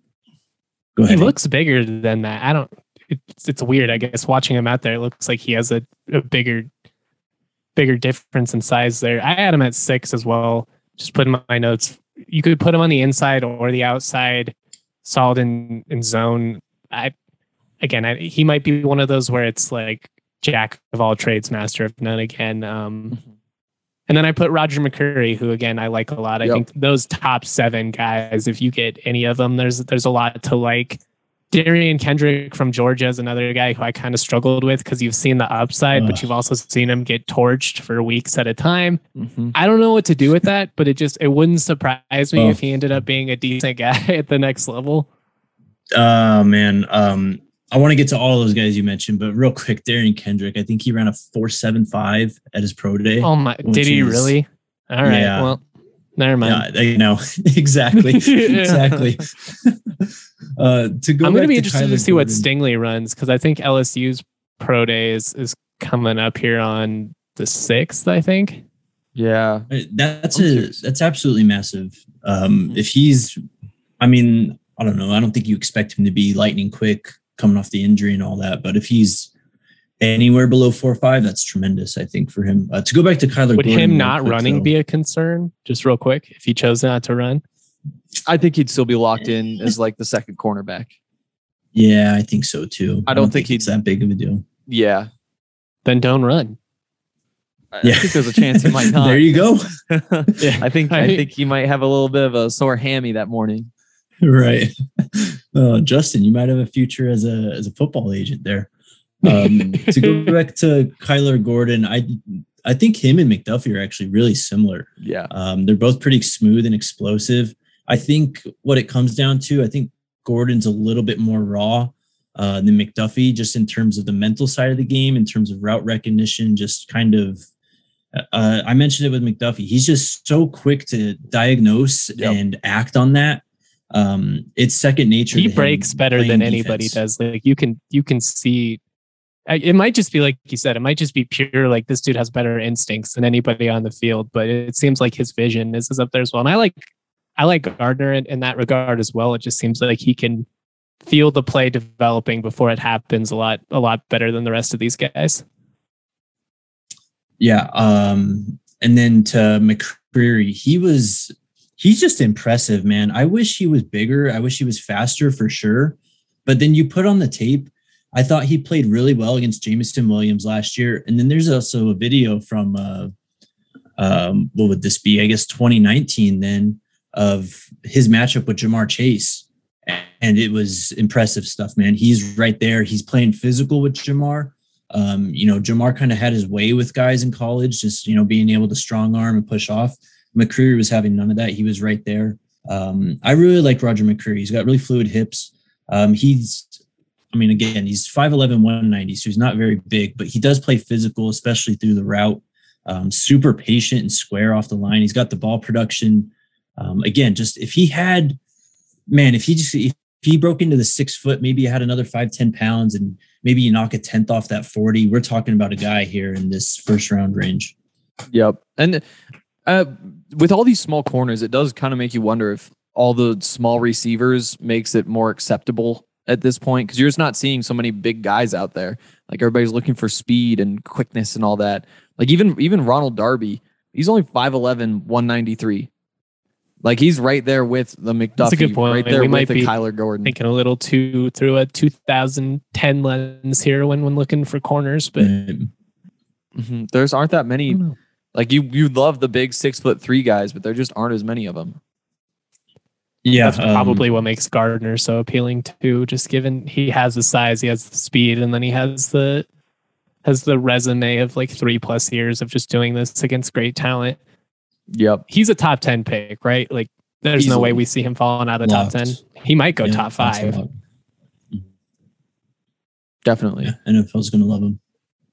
go ahead. He looks bigger than that. I don't, It's it's weird, I guess, watching him out there. It looks like he has a, a bigger bigger difference in size there. I had him at six as well. Just put in my notes. You could put him on the inside or the outside, solid in, in zone. I again, I, he might be one of those where it's like jack of all trades, master of none again. Um, and then I put Roger McCreary, who again I like a lot. I yep. think those top seven guys, if you get any of them, there's there's a lot to like. Darian Kendrick from Georgia is another guy who I kind of struggled with because you've seen the upside, Ugh. but you've also seen him get torched for weeks at a time. Mm-hmm. I don't know what to do with that, but it just it wouldn't surprise me oh. if he ended up being a decent guy at the next level. Uh man, um, I want to get to all those guys you mentioned, but real quick, Darian Kendrick, I think he ran a four seven five at his pro day. Oh my! Did he is, really? All right. Yeah. Well, never mind. Yeah, you know exactly, exactly. Uh, to go I'm going to be to interested Kyler to see Gordon. what Stingley runs because I think L S U's pro day is, is coming up here on the sixth, I think. Yeah, that's a that's absolutely massive. Um, mm-hmm. If he's, I mean, I don't know. I don't think you expect him to be lightning quick coming off the injury and all that. But if he's anywhere below four or five, that's tremendous. I think for him uh, to go back to Kyler. Would Gordon him not quick, running though, be a concern? Just real quick, if he chose not to run. I think he'd still be locked in as like the second cornerback. Yeah, I think so too. I don't, I don't think, think he's that big of a deal. Yeah. Then don't run. I yeah. think there's a chance he might not. There you go. yeah. I think I think he might have a little bit of a sore hammy that morning. Right. Uh, Justin, you might have a future as a as a football agent there. Um, to go back to Kyler Gordon, I I think him and McDuffie are actually really similar. Yeah. Um, they're both pretty smooth and explosive. I think what it comes down to, I think Gordon's a little bit more raw uh, than McDuffie, just in terms of the mental side of the game, in terms of route recognition, just kind of, uh, I mentioned it with McDuffie. He's just so quick to diagnose yep. and act on that. Um, it's second nature. He breaks better than anybody defense. does. Like you can, you can see, it might just be like you said, it might just be pure, like this dude has better instincts than anybody on the field, but it seems like his vision is, is up there as well. And I like, I like Gardner in, in that regard as well. It just seems like he can feel the play developing before it happens a lot, a lot better than the rest of these guys. Yeah. Um, and then to McCreary, he was, he's just impressive, man. I wish he was bigger. I wish he was faster for sure. But then you put on the tape, I thought he played really well against Jameson Williams last year. And then there's also a video from, uh, um, what would this be? I guess twenty nineteen then, of his matchup with Jamar Chase. And it was impressive stuff, man. He's right there. He's playing physical with Jamar. Um, you know, Jamar kind of had his way with guys in college, just, you know, being able to strong arm and push off. McCreary was having none of that. He was right there. Um, I really like Roger McCreary. He's got really fluid hips. Um, he's, I mean, again, he's five eleven, one ninety, so he's not very big, but he does play physical, especially through the route. Um, super patient and square off the line. He's got the ball production. Um, again, just if he had, man, if he just, if he broke into the six foot, maybe he had another five, ten pounds and maybe you knock a tenth off that forty. We're talking about a guy here in this first round range. Yep. And uh, with all these small corners, it does kind of make you wonder if all the small receivers makes it more acceptable at this point, because you're just not seeing so many big guys out there. Like everybody's looking for speed and quickness and all that. Like even even Ronald Darby, he's only five eleven, one ninety-three. Like he's right there with the McDuffie. That's a good point. Right there we with might the be Kyler Gordon. Thinking a little too through a two thousand ten lens here when when looking for corners, but mm-hmm. there's aren't that many. Like you you love the big six foot three guys, but there just aren't as many of them. Yeah, that's um, probably what makes Gardner so appealing too. Just given he has the size, he has the speed, and then he has the has the resume of like three plus years of just doing this against great talent. Yep. He's a top ten pick, right? Like there's Easily. no way we see him falling out of the top ten. He might go yeah, top five. Definitely. Yeah, N F L's going to love him.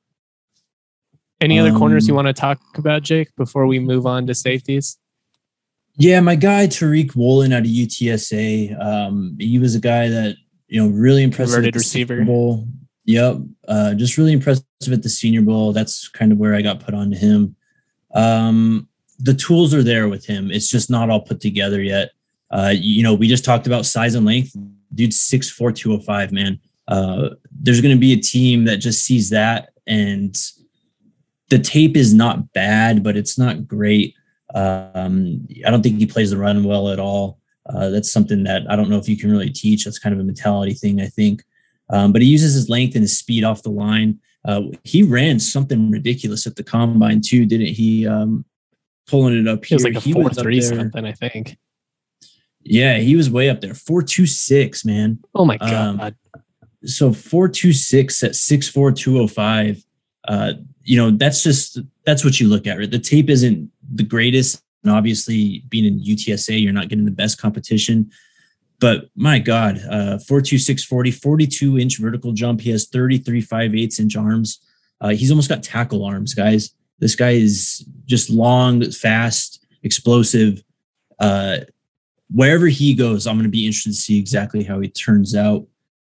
Any um, other corners you want to talk about, Jake, before we move on to safeties? Yeah, my guy, Tariq Woolen out of U T S A. Um, he was a guy that, you know, really impressive Converted at the receiver. Senior Bowl. Yep. Uh, just really impressive at the Senior Bowl. That's kind of where I got put on to him. Um, the tools are there with him. It's just not all put together yet. Uh, you know, we just talked about size and length. Dude's six four, two oh five, man. Uh, there's going to be a team that just sees that, and the tape is not bad, but it's not great. Um, I don't think he plays the run well at all. Uh, that's something that I don't know if you can really teach. That's kind of a mentality thing, I think. Um, but he uses his length and his speed off the line. Uh, he ran something ridiculous at the combine too, didn't he? Um, pulling it up here. It was like a four three something, I think. Yeah, he was way up there. four two six, man. Oh my God. Um, so four two six at six four, two oh five. Uh, you know, that's just, that's what you look at, right? The tape isn't the greatest. And obviously being in U T S A, you're not getting the best competition, but my God, uh, four two six forty, forty-two inch vertical jump. He has thirty-three five eighths inch arms. Uh, he's almost got tackle arms, guys. This guy is just long, fast, explosive. Uh, wherever he goes, I'm going to be interested to see exactly how he turns out.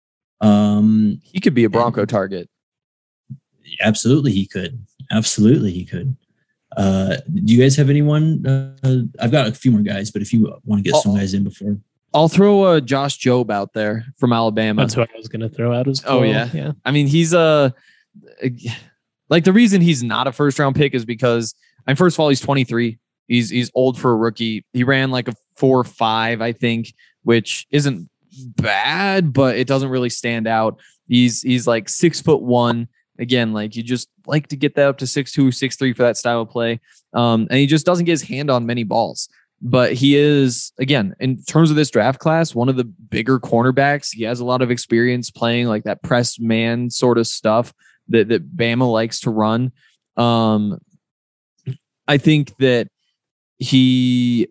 Um, he could be a Bronco and, target. Absolutely, he could. Absolutely, he could. Uh, do you guys have anyone? Uh, I've got a few more guys, but if you want to get I'll, some guys in before. I'll throw uh, Josh Jobe out there from Alabama. That's what I was going to throw out as well. Oh, yeah. yeah. I mean, he's a... Uh, like the reason he's not a first round pick is because, I mean, first of all, he's twenty-three. He's he's old for a rookie. He ran like a four five, I think, which isn't bad, but it doesn't really stand out. He's he's like six foot one. Again, like you just like to get that up to six two, six three for that style of play. Um, and he just doesn't get his hand on many balls. But he is, again, in terms of this draft class, one of the bigger cornerbacks. He has a lot of experience playing like that press man sort of stuff that, that Bama likes to run. Um, I think that he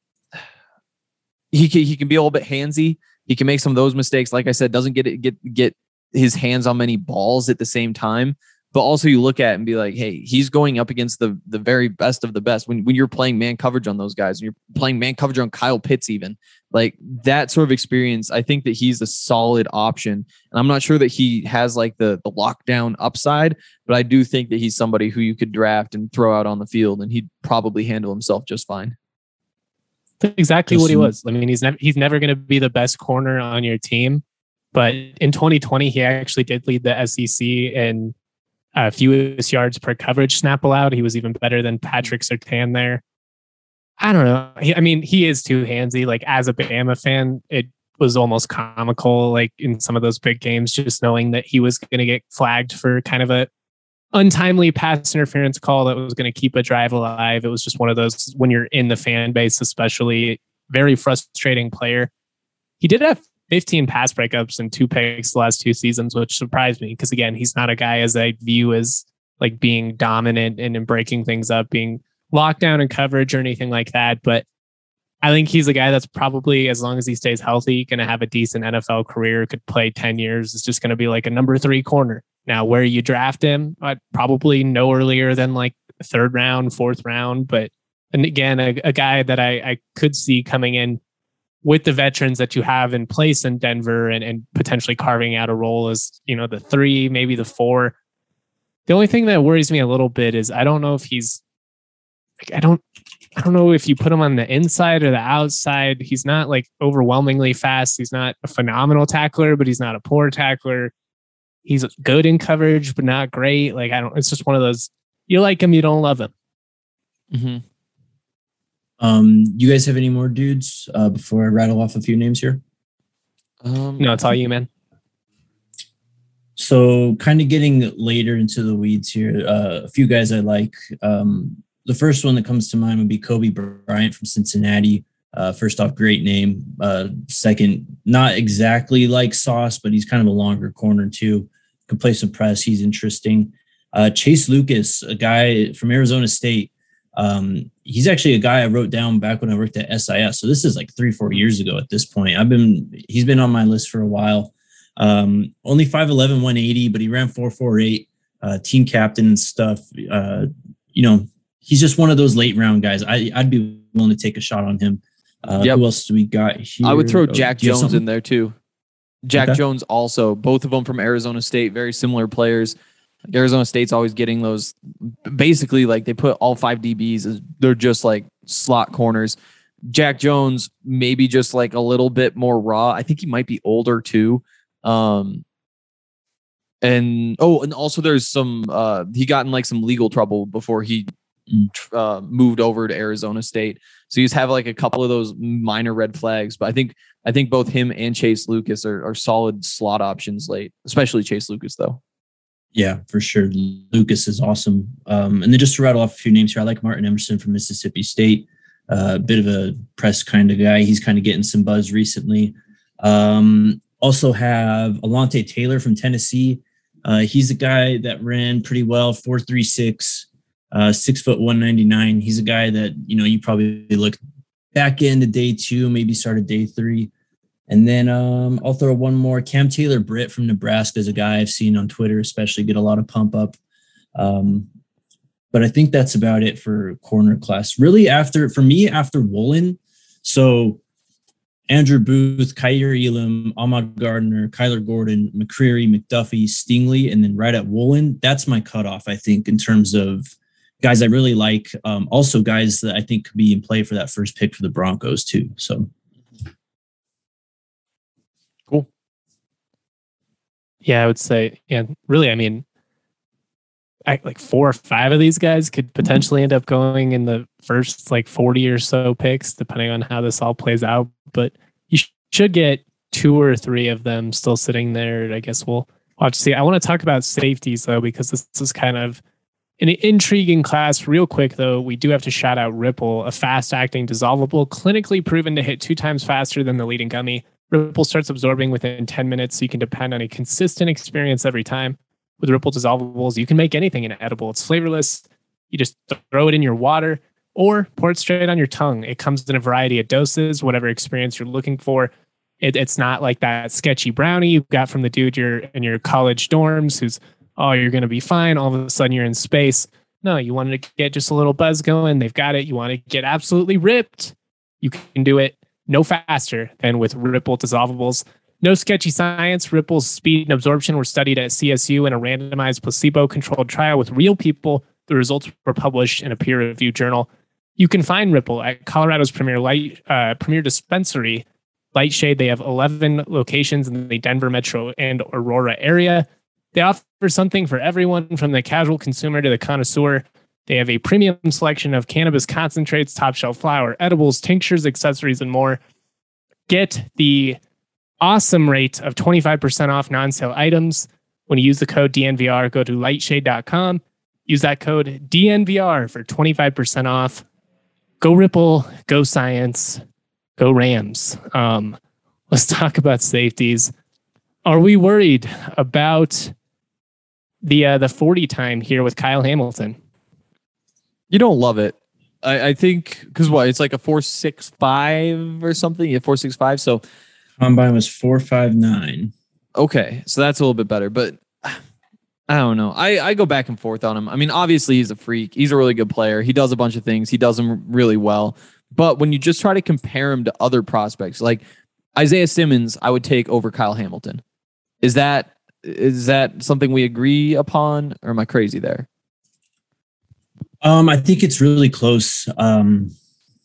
he can, he can be a little bit handsy. He can make some of those mistakes. Like I said, doesn't get it, get get his hands on many balls at the same time. But also you look at it and be like, hey, he's going up against the the very best of the best. When when you're playing man coverage on those guys, and you're playing man coverage on Kyle Pitts, even like that sort of experience, I think that he's a solid option. And I'm not sure that he has like the the lockdown upside, but I do think that he's somebody who you could draft and throw out on the field, and he'd probably handle himself just fine. That's exactly what he was. I mean, he's never he's never going to be the best corner on your team, but in twenty twenty, he actually did lead the S E C in Uh, fewest yards per coverage snap allowed. He was even better than Patrick Surtain there. I don't know. He, I mean, he is too handsy. Like as a Bama fan, it was almost comical. Like in some of those big games, just knowing that he was going to get flagged for kind of a untimely pass interference call that was going to keep a drive alive. It was just one of those when you're in the fan base, especially very frustrating player. He did have fifteen pass breakups and two picks the last two seasons, which surprised me because, again, he's not a guy as I view as like being dominant and, and breaking things up, being locked down in coverage or anything like that. But I think he's a guy that's probably, as long as he stays healthy, going to have a decent N F L career, could play ten years. It's just going to be like a number three corner. Now, where you draft him, I'd probably no earlier than like third round, fourth round. But and again, a, a guy that I, I could see coming in with the veterans that you have in place in Denver and, and potentially carving out a role as, you know, the three, maybe the four. The only thing that worries me a little bit is I don't know if he's, like, I don't, I don't know if you put him on the inside or the outside. He's not like overwhelmingly fast. He's not a phenomenal tackler, but he's not a poor tackler. He's good in coverage, but not great. Like I don't. It's just one of those. You like him, you don't love him. Mm-hmm. Um, you guys have any more dudes uh, before I rattle off a few names here? Um, no, it's all you, man. So kind of getting later into the weeds here, uh, a few guys I like. Um, the first one that comes to mind would be Kobe Bryant from Cincinnati. Uh, first off, great name. Uh, second, not exactly like Sauce, but he's kind of a longer corner too. Can play some press. He's interesting. Uh, Chase Lucas, a guy from Arizona State. Um, he's actually a guy I wrote down back when I worked at S I S. So this is like three, four years ago at this point. I've been, he's been on my list for a while. Um, only five eleven, one eighty, but he ran four forty-eight, uh, team captain and stuff. Uh, you know, he's just one of those late round guys. I, I'd be willing to take a shot on him. Uh, yep. Who else do we got here? I would throw Jack oh, Jones in there too. Jack okay. Jones also, both of them from Arizona State, very similar players. Arizona State's always getting those, basically like they put all five D Bs as they're just like slot corners. Jack Jones, maybe just like a little bit more raw. I think he might be older too. Um, and, oh, and also there's some, uh, he got in like some legal trouble before he uh, moved over to Arizona State. So he's have like a couple of those minor red flags, but I think, I think both him and Chase Lucas are, are solid slot options late, especially Chase Lucas though. Yeah, for sure. Lucas is awesome. Um, and then just to rattle off a few names here, I like Martin Emerson from Mississippi State. A uh, bit of a press kind of guy. He's kind of getting some buzz recently. Um, also have Alontae Taylor from Tennessee. Uh, he's a guy that ran pretty well, four three six, uh, six foot one ninety-nine. He's a guy that, you know, you probably look back into day two, maybe started day three. And then um, I'll throw one more. Cam Taylor Britt from Nebraska is a guy I've seen on Twitter, especially get a lot of pump up. Um, but I think that's about it for corner class. Really, after for me, after Woolen, so Andrew Booth, Kyer Elam, Ahmad Gardner, Kyler Gordon, McCreary, McDuffie, Stingley, and then right at Woolen, that's my cutoff, I think, in terms of guys I really like. Um, also, guys that I think could be in play for that first pick for the Broncos, too. So. Cool. Yeah, I would say, yeah, really, I mean, I, like four or five of these guys could potentially end up going in the first like forty or so picks, depending on how this all plays out. But you sh- should get two or three of them still sitting there. I guess we'll watch. See, I want to talk about safeties though, because this is kind of an intriguing class. Real quick though, we do have to shout out Ripple, a fast-acting dissolvable, clinically proven to hit two times faster than the leading gummy. Ripple starts absorbing within ten minutes, so you can depend on a consistent experience every time. With Ripple dissolvables, you can make anything an edible. It's flavorless. You just throw it in your water or pour it straight on your tongue. It comes in a variety of doses, whatever experience you're looking for. It, it's not like that sketchy brownie you got from the dude you're in your college dorms who's, oh, you're going to be fine. All of a sudden you're in space. No, you wanted to get just a little buzz going. They've got it. You want to get absolutely ripped. You can do it no faster than with Ripple dissolvables. No sketchy science. Ripple's speed and absorption were studied at C S U in a randomized placebo-controlled trial with real people. The results were published in a peer-reviewed journal. You can find Ripple at Colorado's premier light, uh, premier dispensary, Lightshade. They have eleven locations in the Denver metro and Aurora area. They offer something for everyone from the casual consumer to the connoisseur. They have a premium selection of cannabis concentrates, top shelf flower, edibles, tinctures, accessories, and more. Get the awesome rate of twenty-five percent off non-sale items when you use the code D N V R. Go to lightshade dot com. Use that code D N V R for twenty-five percent off. Go Ripple, go Science, go Rams. Um, let's talk about safeties. Are we worried about the uh, the forty time here with Kyle Hamilton? You don't love it. I, I think because what it's like a four six five or something. Yeah, four six five. So combine was four five nine. Okay, so that's a little bit better, but I don't know. I, I go back and forth on him. I mean, obviously he's a freak. He's a really good player. He does a bunch of things. He does them really well. But when you just try to compare him to other prospects, like Isaiah Simmons, I would take over Kyle Hamilton. Is that is that something we agree upon, or am I crazy there? Um, I think it's really close. Um,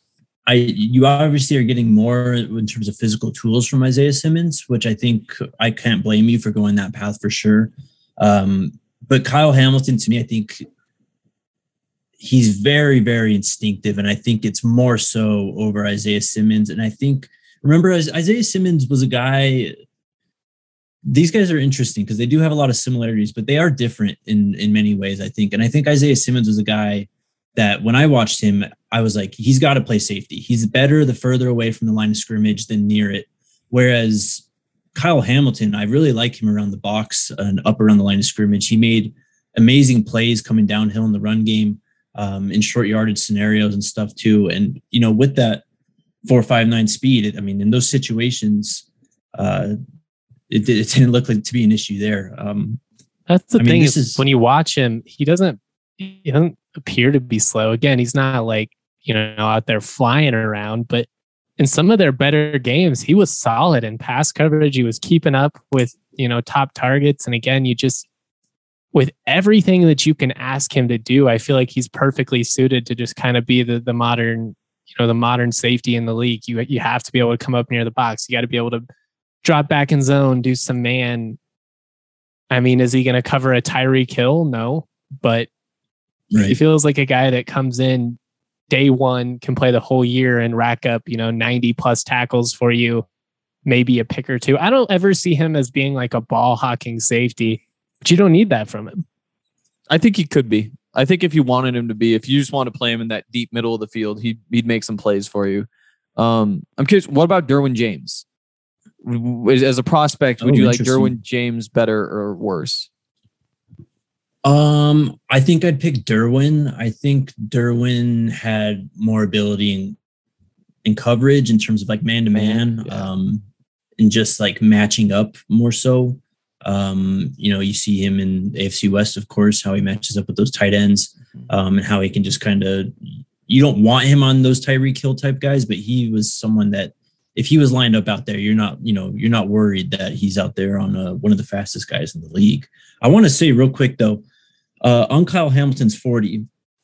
I you obviously are getting more in terms of physical tools from Isaiah Simmons, which I think I can't blame you for going that path for sure. Um, but Kyle Hamilton, to me, I think he's very, very instinctive, and I think it's more so over Isaiah Simmons. And I think, remember, Isaiah Simmons was a guy. These guys are interesting because they do have a lot of similarities, but they are different in in many ways, I think. And I think Isaiah Simmons was a guy that when I watched him, I was like, he's got to play safety. He's better the further away from the line of scrimmage than near it. Whereas Kyle Hamilton, I really like him around the box and up around the line of scrimmage. He made amazing plays coming downhill in the run game, um, in short yardage scenarios and stuff too. And, you know, with that four five nine speed, it, I mean, in those situations, uh, it, it didn't look like to be an issue there. Um, That's the I thing mean, is, is when you watch him, he doesn't, he doesn't appear to be slow. Again, he's not like, you know, out there flying around, but in some of their better games, he was solid in pass coverage. He was keeping up with, you know, top targets. And again, you just, with everything that you can ask him to do, I feel like he's perfectly suited to just kind of be the the modern, you know, the modern safety in the league. You you have to be able to come up near the box. You got to be able to drop back in zone, do some man. I mean, is he going to cover a Tyreek Hill? No, but right. he feels like a guy that comes in day one, can play the whole year and rack up, you know, ninety plus tackles for you, maybe a pick or two. I don't ever see him as being like a ball hawking safety, but you don't need that from him. I think he could be. I think if you wanted him to be, if you just want to play him in that deep middle of the field, he'd, he'd make some plays for you. Um, I'm curious, what about Derwin James? As a prospect, would oh, you like Derwin James better or worse? Um, I think I'd pick Derwin. I think Derwin had more ability in, in coverage in terms of like man to man, um, and just like matching up more so. Um, you know, you see him in A F C West, of course, how he matches up with those tight ends, um, and how he can just kind of, you don't want him on those Tyreek Hill type guys, but he was someone that if he was lined up out there, you're not, you know, you're not worried that he's out there on a, one of the fastest guys in the league. I want to say real quick though, uh, on Kyle Hamilton's forty,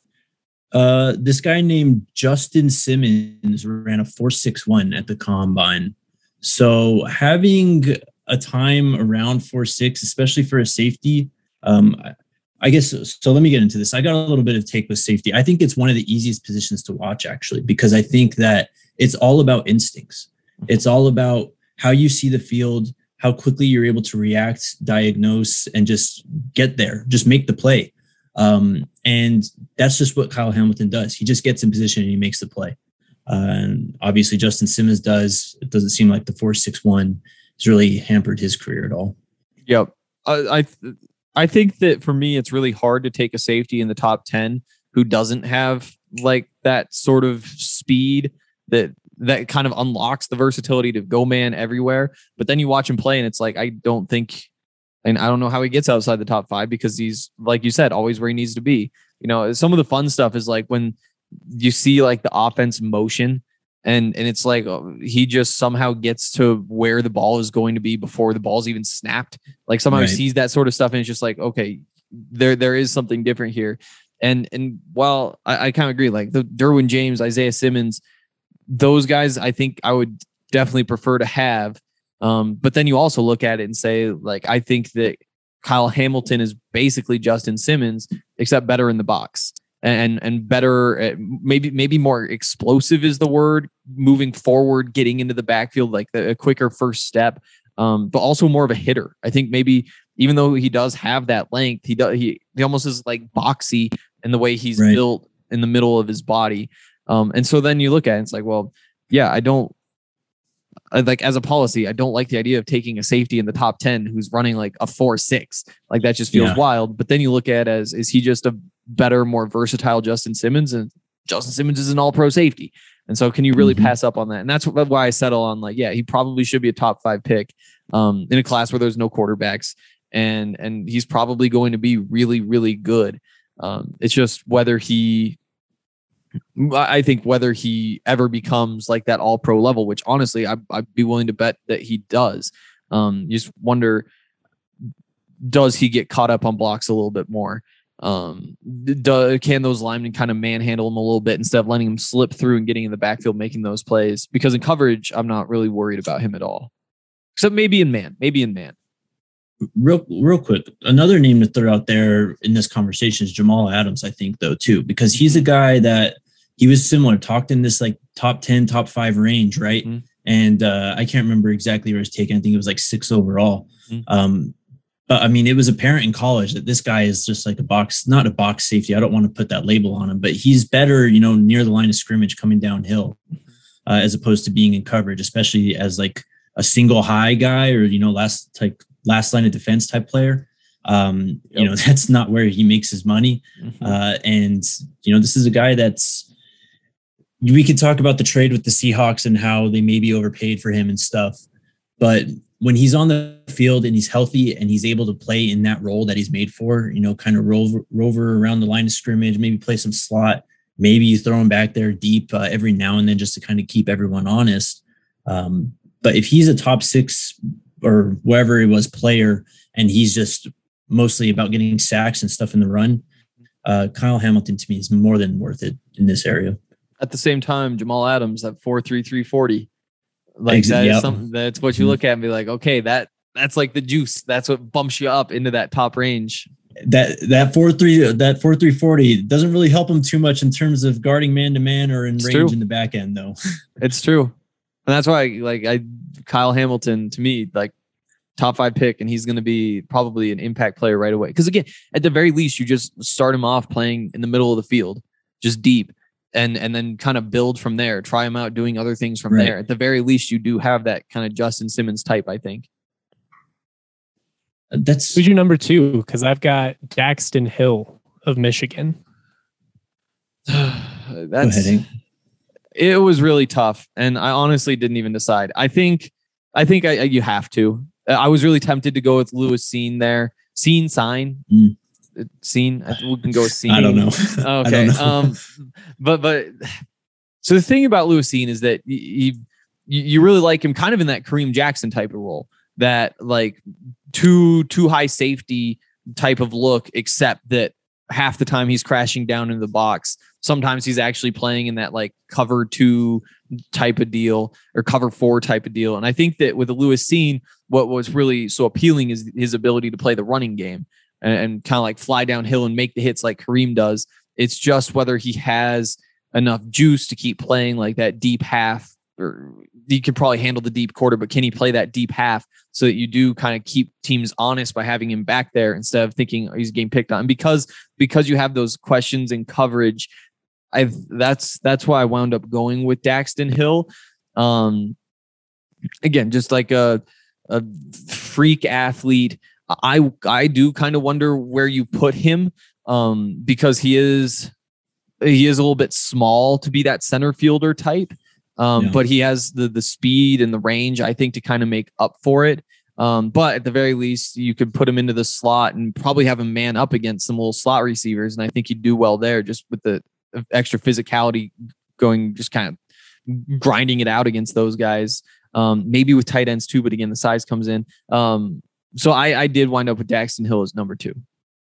uh, this guy named Justin Simmons ran a four six one at the combine. So having a time around four six, especially for a safety, um, I guess, so let me get into this. I got a little bit of take with safety. I think it's one of the easiest positions to watch actually, because I think that it's all about instincts. It's all about how you see the field, how quickly you're able to react, diagnose, and just get there, just make the play. Um, and that's just what Kyle Hamilton does. He just gets in position and he makes the play. Uh, and obviously Justin Simmons does. It doesn't seem like the four six one has really hampered his career at all. Yep. I, I, I think that for me, it's really hard to take a safety in the top ten who doesn't have like that sort of speed that that kind of unlocks the versatility to go man everywhere. But then you watch him play and it's like, I don't think, and I don't know how he gets outside the top five because he's, like you said, always where he needs to be. You know, some of the fun stuff is like when you see like the offense motion and, and it's like, oh, he just somehow gets to where the ball is going to be before the ball's even snapped. Like somehow right. he sees that sort of stuff and it's just like, okay, there, there is something different here. And, and while I, I kind of agree, like the Derwin James, Isaiah Simmons, those guys, I think I would definitely prefer to have. Um, but then you also look at it and say, like, I think that Kyle Hamilton is basically Justin Simmons, except better in the box and, and better, at, maybe, maybe more explosive is the word, moving forward, getting into the backfield, like the, a quicker first step, um, but also more of a hitter. I think maybe even though he does have that length, he does, he, he almost is like boxy in the way he's right. built in the middle of his body. Um, and so then you look at it, it's like, well, yeah, I don't I, like as a policy, I don't like the idea of taking a safety in the top ten who's running like a four six. Like that just feels yeah. wild. But then you look at it as, is he just a better, more versatile Justin Simmons? And Justin Simmons is an all pro safety. And so can you really mm-hmm. pass up on that? And that's why I settle on like, yeah, he probably should be a top five pick um, in a class where there's no quarterbacks. And, and he's probably going to be really, really good. Um, it's just whether he, I think whether he ever becomes like that all pro level, which honestly, I, I'd be willing to bet that he does. Um, you just wonder, does he get caught up on blocks a little bit more? Um, do, can those linemen kind of manhandle him a little bit instead of letting him slip through and getting in the backfield, making those plays? Because in coverage, I'm not really worried about him at all, except maybe in man, maybe in man. Real, real quick, another name to throw out there in this conversation is Jamal Adams, I think, though, too, because he's a guy that he was similar, talked in this like top ten, top five range, right? Mm-hmm. And uh, I can't remember exactly where it was taken. I think it was like six overall. Mm-hmm. Um, but I mean, it was apparent in college that this guy is just like a box, not a box safety. I don't want to put that label on him, but he's better, you know, near the line of scrimmage coming downhill uh, as opposed to being in coverage, especially as like a single high guy or, you know, last like last line of defense type player. Um, yep. You know, that's not where he makes his money. Mm-hmm. Uh, and, you know, this is a guy that's, we could talk about the trade with the Seahawks and how they maybe overpaid for him and stuff. But when he's on the field and he's healthy and he's able to play in that role that he's made for, you know, kind of rover, rover around the line of scrimmage, maybe play some slot, maybe you throw him back there deep uh, every now and then just to kind of keep everyone honest. Um, but if he's a top six or wherever it was player and he's just mostly about getting sacks and stuff in the run, uh, Kyle Hamilton to me is more than worth it in this area. At the same time, Jamal Adams at four three three forty. Like Ex- that yep. is something that's what you look at and be like, okay, that that's like the juice. That's what bumps you up into that top range. That that four three that four three forty doesn't really help him too much in terms of guarding man to man or in it's range true. in the back end, though. It's true, and that's why like I Kyle Hamilton to me like top five pick, and he's going to be probably an impact player right away. Because again, at the very least, you just start him off playing in the middle of the field, just deep. And and then kind of build from there, try him out doing other things from right. there. At the very least, you do have that kind of Justin Simmons type, I think. That's who's your number two? Because I've got Daxton Hill of Michigan. That's it was really tough, and I honestly didn't even decide. I think I think I, you have to. I was really tempted to go with Lewis Cine there. Cine sign. Mm. Scene, we can go with scene. I don't know. Okay, don't know. um, but but so the thing about Lewis Cine is that you you really like him kind of in that Kareem Jackson type of role, that like too too high safety type of look, except that half the time he's crashing down into the box. Sometimes he's actually playing in that like cover two type of deal or cover four type of deal. And I think that with the Lewis Cine, what was really so appealing is his ability to play the running game. And kind of like fly downhill and make the hits like Kareem does. It's just whether he has enough juice to keep playing like that deep half, or he could probably handle the deep quarter, but can he play that deep half so that you do kind of keep teams honest by having him back there instead of thinking oh, he's getting picked on? And because, because you have those questions in coverage, I that's, that's why I wound up going with Daxton Hill. Um, again, just like a, a freak athlete. I I do kind of wonder where you put him um, because he is he is a little bit small to be that center fielder type, um, yeah. but he has the the speed and the range, I think, to kind of make up for it. Um, but at the very least, you could put him into the slot and probably have him man up against some little slot receivers, and I think he'd do well there just with the extra physicality going, just kind of grinding it out against those guys. Um, maybe with tight ends too, but again, the size comes in. Um, So I, I did wind up with Daxton Hill as number two.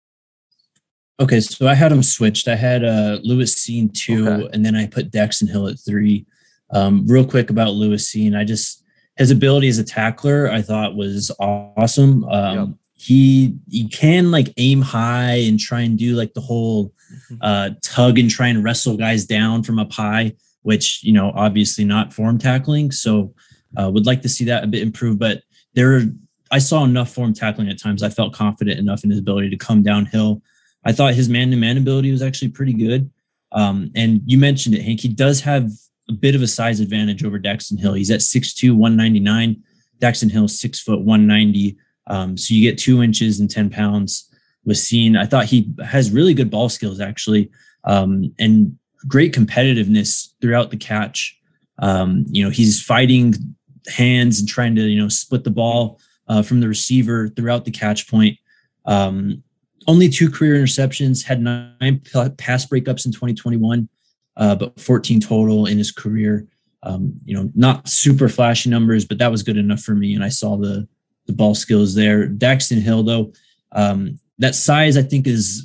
Okay, so I had him switched. I had uh, Lewis Cine two, okay. and then I put Daxton Hill at three. Um, real quick about Lewis Cine, I just his ability as a tackler I thought was awesome. Um, yep. He he can like aim high and try and do like the whole uh, tug and try and wrestle guys down from up high, which you know obviously not form tackling. So uh, would like to see that a bit improved, but there are. I saw enough form tackling at times. I felt confident enough in his ability to come downhill. I thought his man-to-man ability was actually pretty good. Um, and you mentioned it, Hank. He does have a bit of a size advantage over Daxton Hill. He's at six two, one ninety-nine. Daxton Hill, six foot, one ninety. Um, so you get two inches and ten pounds with Cine. I thought he has really good ball skills, actually, um, and great competitiveness throughout the catch. Um, you know, he's fighting hands and trying to, you know, split the ball Uh, from the receiver throughout the catch point. Um, only two career interceptions, had nine pass breakups in twenty twenty-one, uh, but fourteen total in his career. Um, you know, not super flashy numbers, but that was good enough for me. And I saw the the ball skills there. Daxton Hill, though, um, that size I think is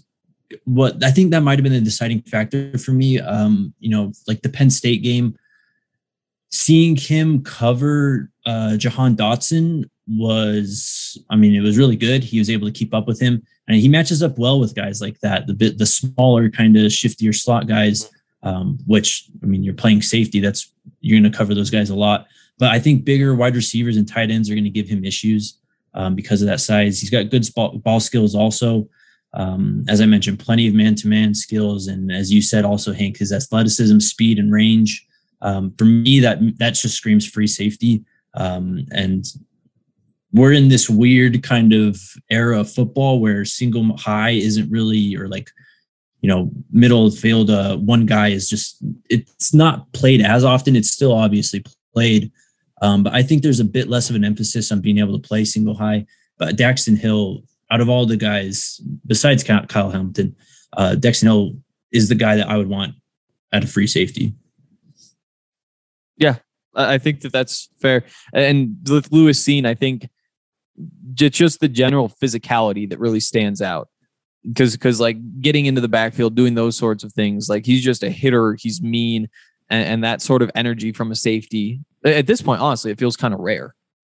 what I think that might have been the deciding factor for me. Um, you know, like the Penn State game, seeing him cover uh, Jahan Dotson was, I mean, it was really good. He was able to keep up with him, and he matches up well with guys like that. The bit, the smaller, kind of shiftier slot guys, um, which I mean, you're playing safety. That's you're going to cover those guys a lot. But I think bigger wide receivers and tight ends are going to give him issues um, because of that size. He's got good ball, ball skills also. Um, as I mentioned, plenty of man-to-man skills. And as you said, also, Hank, his athleticism, speed, and range. Um, for me, that that just screams free safety. Um, and we're in this weird kind of era of football where single high isn't really, or like, you know, middle of the field, uh, one guy is just, it's not played as often. It's still obviously played. Um, but I think there's a bit less of an emphasis on being able to play single high. But Daxton Hill, out of all the guys, besides Kyle Hamilton, uh, Daxton Hill is the guy that I would want at a free safety. Yeah, I think that that's fair. And with Lewis Cine, I think just the general physicality that really stands out. Because, because like getting into the backfield, doing those sorts of things, like he's just a hitter. He's mean, and, and that sort of energy from a safety. At this point, honestly, it feels kind of rare.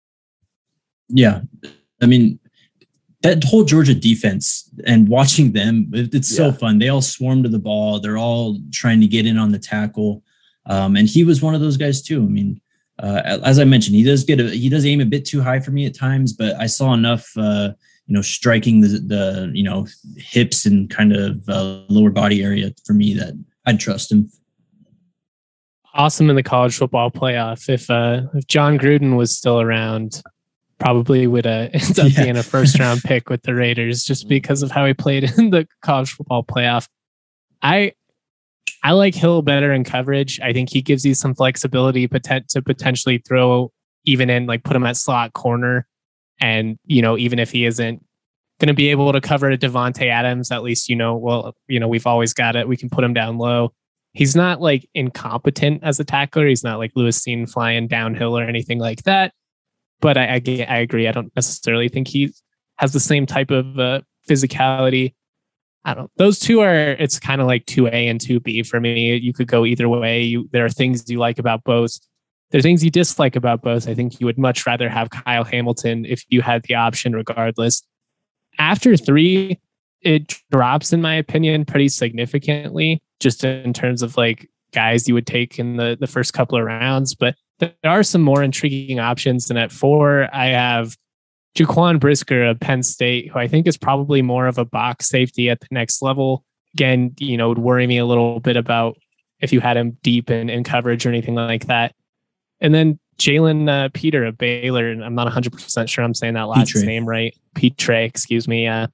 Yeah, I mean, that whole Georgia defense and watching them, it's so yeah. fun. They all swarm to the ball. They're all trying to get in on the tackle. Um, and he was one of those guys too. I mean, uh, as I mentioned, he does get a, he does aim a bit too high for me at times, but I saw enough, uh, you know, striking the, the, you know, hips and kind of uh, lower body area for me that I'd trust him. Awesome in the college football playoff. If, uh, if John Gruden was still around, probably would uh, end up yeah. being a first round pick with the Raiders just because of how he played in the college football playoff. I, I like Hill better in coverage. I think he gives you some flexibility potent- to potentially throw even in, like put him at slot corner. And, you know, even if he isn't going to be able to cover Devontae Adams, at least, you know, well, you know, we've always got it. We can put him down low. He's not like incompetent as a tackler. He's not like Lewis Cine flying downhill or anything like that. But I, I, I agree. I don't necessarily think he has the same type of uh, physicality. I don't. Those two are. It's kind of like two A and two B for me. You could go either way. You, there are things you like about both. There are things you dislike about both. I think you would much rather have Kyle Hamilton if you had the option, regardless. After three, it drops, in my opinion, pretty significantly, just in terms of like guys you would take in the the first couple of rounds. But there are some more intriguing options. And at four, I have Jaquan Brisker of Penn State, who I think is probably more of a box safety at the next level. Again, you know, would worry me a little bit about if you had him deep in, in coverage or anything like that. And then Jalen uh, Peter of Baylor, and I'm not one hundred percent sure I'm saying that last Petre. name right. Petre, excuse me. Uh,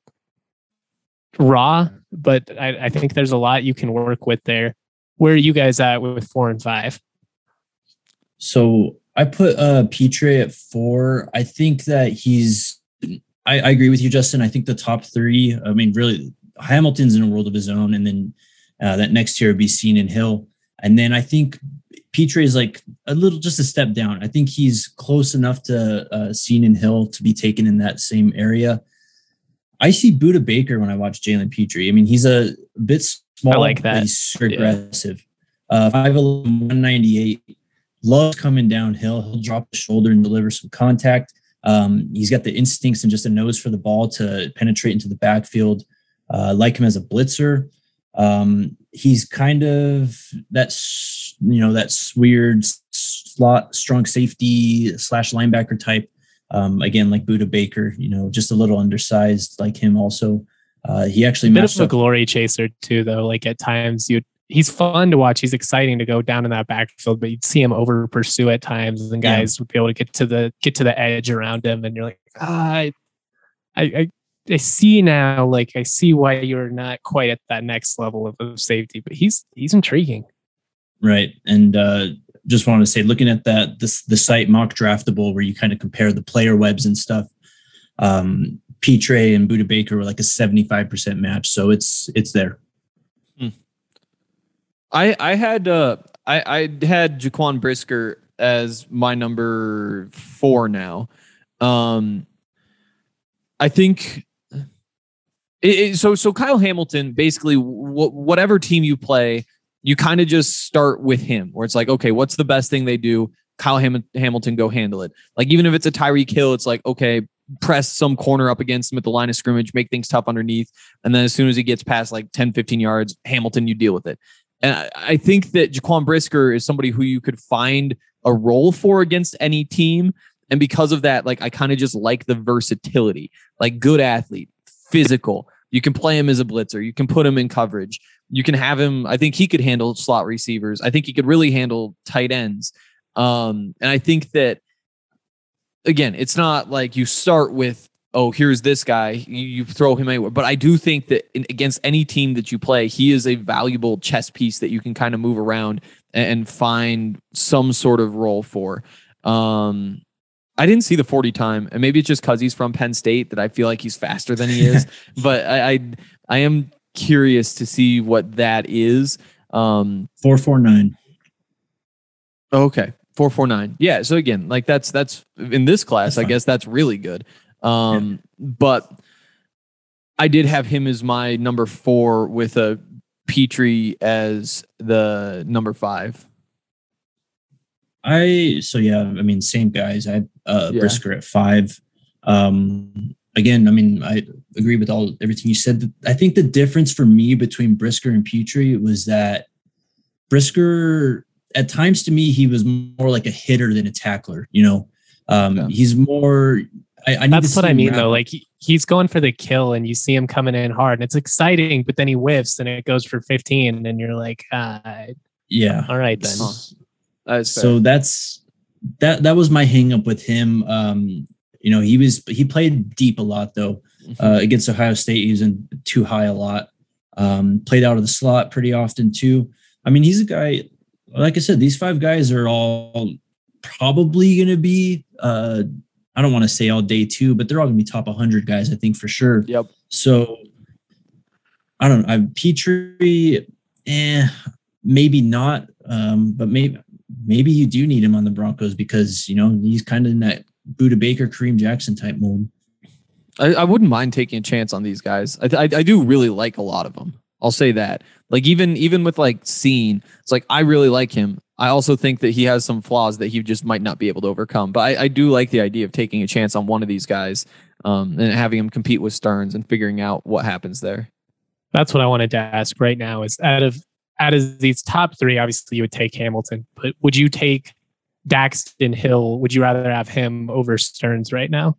raw, but I, I think there's a lot you can work with there. Where are you guys at with four and five? So I put uh, Petre at four. I think that he's, I, I agree with you, Justin. I think the top three, I mean, really, Hamilton's in a world of his own. And then uh, that next tier would be Cine and Hill. And then I think Petre is like a little, just a step down. I think he's close enough to uh, Cine and Hill to be taken in that same area. I see Buda Baker when I watch Jalen Petre. I mean, he's a bit small. I like that. But he's super yeah. aggressive. Uh, five eleven, one ninety-eight. Loves coming downhill. He'll drop the shoulder and deliver some contact. Um, he's got the instincts and just a nose for the ball to penetrate into the backfield. Uh, I like him as a blitzer. Um, he's kind of that's you know that's weird slot strong safety slash linebacker type. Um, again, like Buda Baker, you know, just a little undersized like him. Also, uh, he actually a bit of a up. glory chaser too, though. Like at times you. He's fun to watch. He's exciting to go down in that backfield, but you'd see him over pursue at times, and guys yeah. would be able to get to the get to the edge around him, and you're like, ah, I, I, I see now. Like I see why you're not quite at that next level of, of safety, but he's he's intriguing, right? And uh, just wanted to say, looking at that this the site Mock Draftable, where you kind of compare the player webs and stuff. Um, Petre and Buda Baker were like a seventy-five percent match, so it's it's there. I, I had uh I, I had Jaquan Brisker as my number four now. Um, I think It, it, so so Kyle Hamilton, basically, w- whatever team you play, you kind of just start with him, where it's like, okay, what's the best thing they do? Kyle Ham- Hamilton, go handle it. Like, even if it's a Tyreek Hill, it's like, okay, press some corner up against him at the line of scrimmage, make things tough underneath. And then as soon as he gets past like ten, fifteen yards, Hamilton, you deal with it. And I, I think that Jaquan Brisker is somebody who you could find a role for against any team. And because of that, like, I kind of just like the versatility, like good athlete, physical. You can play him as a blitzer. You can put him in coverage. You can have him. I think he could handle slot receivers. I think he could really handle tight ends. Um, and I think that, again, it's not like you start with, oh, here's this guy, you, you throw him anywhere. But I do think that in, against any team that you play, he is a valuable chess piece that you can kind of move around and, and find some sort of role for. Um, I didn't see the forty time, and maybe it's just because he's from Penn State that I feel like he's faster than he is. But I, I, I am curious to see what that is. Um, four four nine. Okay, four four nine. Yeah. So again, like that's that's in this class, I guess that's really good. Um, yeah. But I did have him as my number four with a Petrie as the number five. I so yeah, I mean, same guys. I had uh, Yeah. Brisker at five. Um, again, I mean, I agree with all everything you said. I think the difference for me between Brisker and Petrie was that Brisker, at times to me, he was more like a hitter than a tackler. You know, um, Yeah. he's more. I, I need That's to what see I him mean, wrap though. up. Like he, he's going for the kill, and you see him coming in hard, and it's exciting. But then he whiffs, and it goes for fifteen, and you're like, ah, yeah. all right then. That's So that's that. That was my hang up with him. Um, you know, he was he played deep a lot though. Uh, against Ohio State, he was in too high a lot. Um, played out of the slot pretty often too. I mean, he's a guy. Like I said, these five guys are all probably going to be. Uh, I don't want to say all day two, but they're all going to be top one hundred guys, I think for sure. Yep. So I don't know. I Petrie, eh, maybe not. Um, but maybe maybe you do need him on the Broncos because you know he's kind of in that Buda Baker, Kareem Jackson type mold. I, I wouldn't mind taking a chance on these guys. I, I I do really like a lot of them. I'll say that. Like even even with like Scene, it's like I really like him. I also think that he has some flaws that he just might not be able to overcome. But I, I do like the idea of taking a chance on one of these guys um, and having him compete with Stearns and figuring out what happens there. That's what I wanted to ask right now. Is out of out of these top three, obviously you would take Hamilton, but would you take Daxton Hill? Would you rather have him over Stearns right now?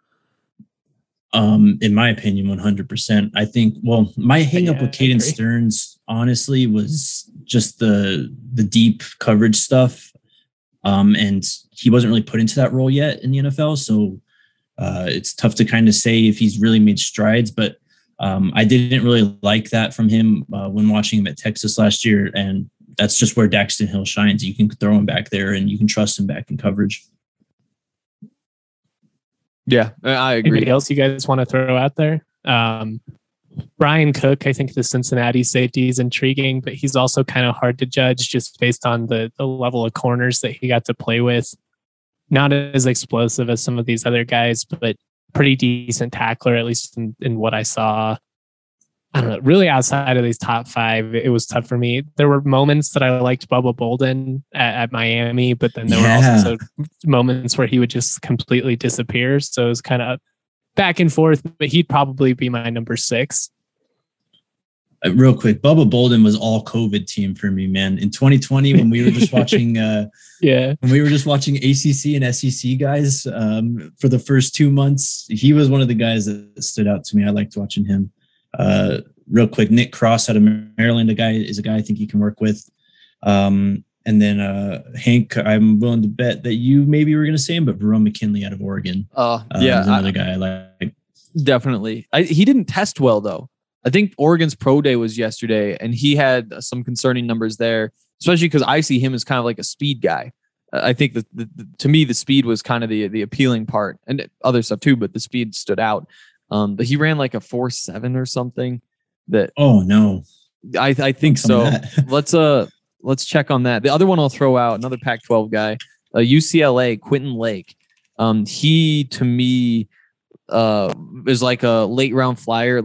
Um, in my opinion, one hundred percent. I think, well, my hang up Yeah, with I Caden agree. Stearns, honestly, was just the the deep coverage stuff. Um, and he wasn't really put into that role yet in the N F L. So uh, it's tough to kind of say if he's really made strides, but um, I didn't really like that from him uh, when watching him at Texas last year. And that's just where Daxton Hill shines. You can throw him back there and you can trust him back in coverage. Yeah, I agree. Anybody else you guys want to throw out there? Um, Brian Cook, I think the Cincinnati safety is intriguing, but he's also kind of hard to judge just based on the, the level of corners that he got to play with. Not as explosive as some of these other guys, but pretty decent tackler, at least in, in what I saw. I don't know. Really, outside of these top five, it was tough for me. There were moments that I liked Bubba Bolden at, at Miami, but then there Yeah. were also moments where he would just completely disappear. So it was kind of back and forth, but he'd probably be my number six. Uh, real quick, Bubba Bolden was all COVID team for me, man. In twenty twenty, when we were just watching, uh, Yeah. when we were just watching A C C and S E C guys um, for the first two months, he was one of the guys that stood out to me. I liked watching him. Uh, real quick, Nick Cross out of Maryland, a guy is a guy I think you can work with. Um, and then uh, Hank, I'm willing to bet that you maybe were going to say him, but Verone McKinley out of Oregon. Uh, Uh, yeah, is another I- guy I like. definitely. I, he didn't test well though. I think Oregon's pro day was yesterday, and he had some concerning numbers there, especially because I see him as kind of like a speed guy. Uh, I think that the, the, to me the speed was kind of the the appealing part, and other stuff too, but the speed stood out. Um, but he ran like a four seven or something. That Oh no, I I think Some of so. that. let's uh let's check on that. The other one I'll throw out, another Pac twelve guy, uh, U C L A, Quentin Lake. Um, he to me uh is like a late round flyer. Like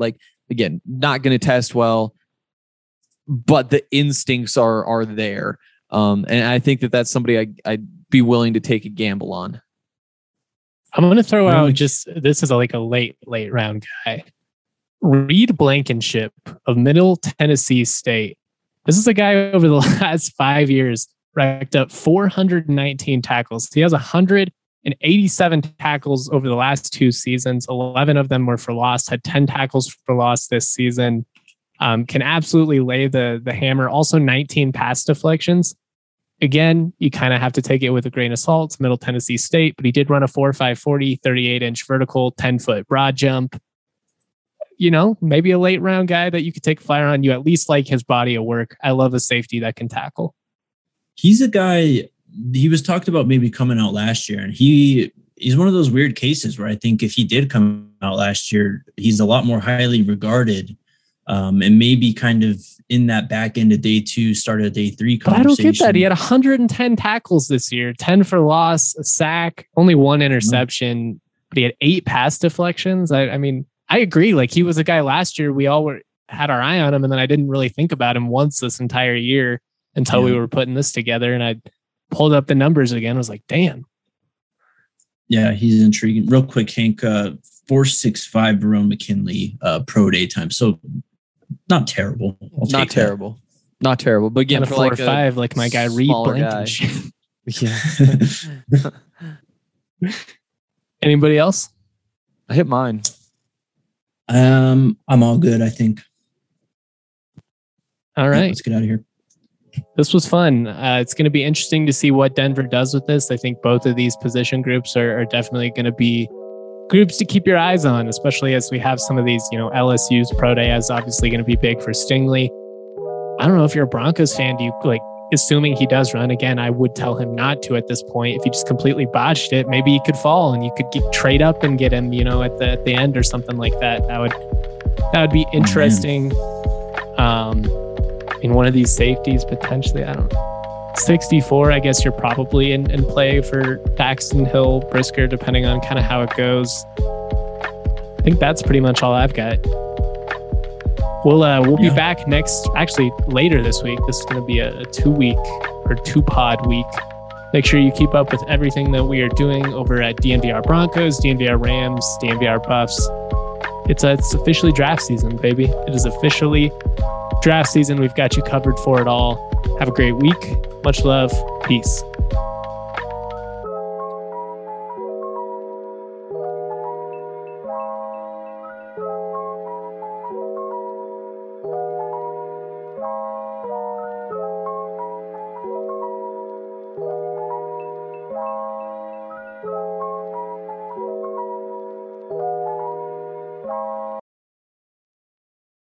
again, not going to test well, but the instincts are are there. Um, and I think that that's somebody I, I'd be willing to take a gamble on. I'm going to throw out just, this is a, like a late, late round guy. Reed Blankenship of Middle Tennessee State. This is a guy over the last five years racked up four hundred nineteen tackles. He has one hundred eighty-seven tackles over the last two seasons. eleven of them were for loss, had ten tackles for loss this season. Um, can absolutely lay the, the hammer. Also nineteen pass deflections. Again, you kind of have to take it with a grain of salt. It's Middle Tennessee State, but he did run a four five forty, thirty-eight inch vertical, ten foot broad jump. You know, maybe a late round guy that you could take a flyer on. You at least like his body of work. I love a safety that can tackle. He's a guy, he was talked about maybe coming out last year, and he he's one of those weird cases where I think if he did come out last year, he's a lot more highly regarded, um, and maybe kind of in that back end of day two, start of day three conversation. But I don't get that. He had one hundred ten tackles this year, ten for loss, a sack, only one interception, mm-hmm. but he had eight pass deflections. I, I mean, I agree. Like, he was a guy last year, we all were had our eye on him, and then I didn't really think about him once this entire year until yeah. we were putting this together, and I pulled up the numbers again. I was like, damn. Yeah, he's intriguing. Real quick, Hank, uh, four six five Verone McKinley uh, pro day time. So not terrible. I'll not terrible. That. Not terrible. But again, for four like or five, like my guy Reed Blankenship. Yeah. Anybody else? I hit mine. Um, I'm all good, I think. All right. Yeah, let's get out of here. This was fun. Uh, it's going to be interesting to see what Denver does with this. I think both of these position groups are, are definitely going to be groups to keep your eyes on, especially as we have some of these, you know, L S U's pro day is obviously going to be big for Stingley. I don't know if you're a Broncos fan, do you like, assuming he does run again, I would tell him not to at this point. If he just completely botched it, maybe he could fall and you could get, trade up and get him, you know, at the, at the end or something like that. That would, that would be interesting. Um, in one of these safeties, potentially, I don't know. sixty-four, I guess you're probably in, in play for Paxton, Hill, Brisker, depending on kind of how it goes. I think that's pretty much all I've got. We'll uh, we'll yeah. be back next, actually later this week. This is going to be a, a two week or two pod week. Make sure you keep up with everything that we are doing over at D N V R Broncos, D N V R Rams, D N V R Buffs. It's uh, it's officially draft season, baby. It is officially draft season. We've got you covered for it all. Have a great week. Much love. Peace.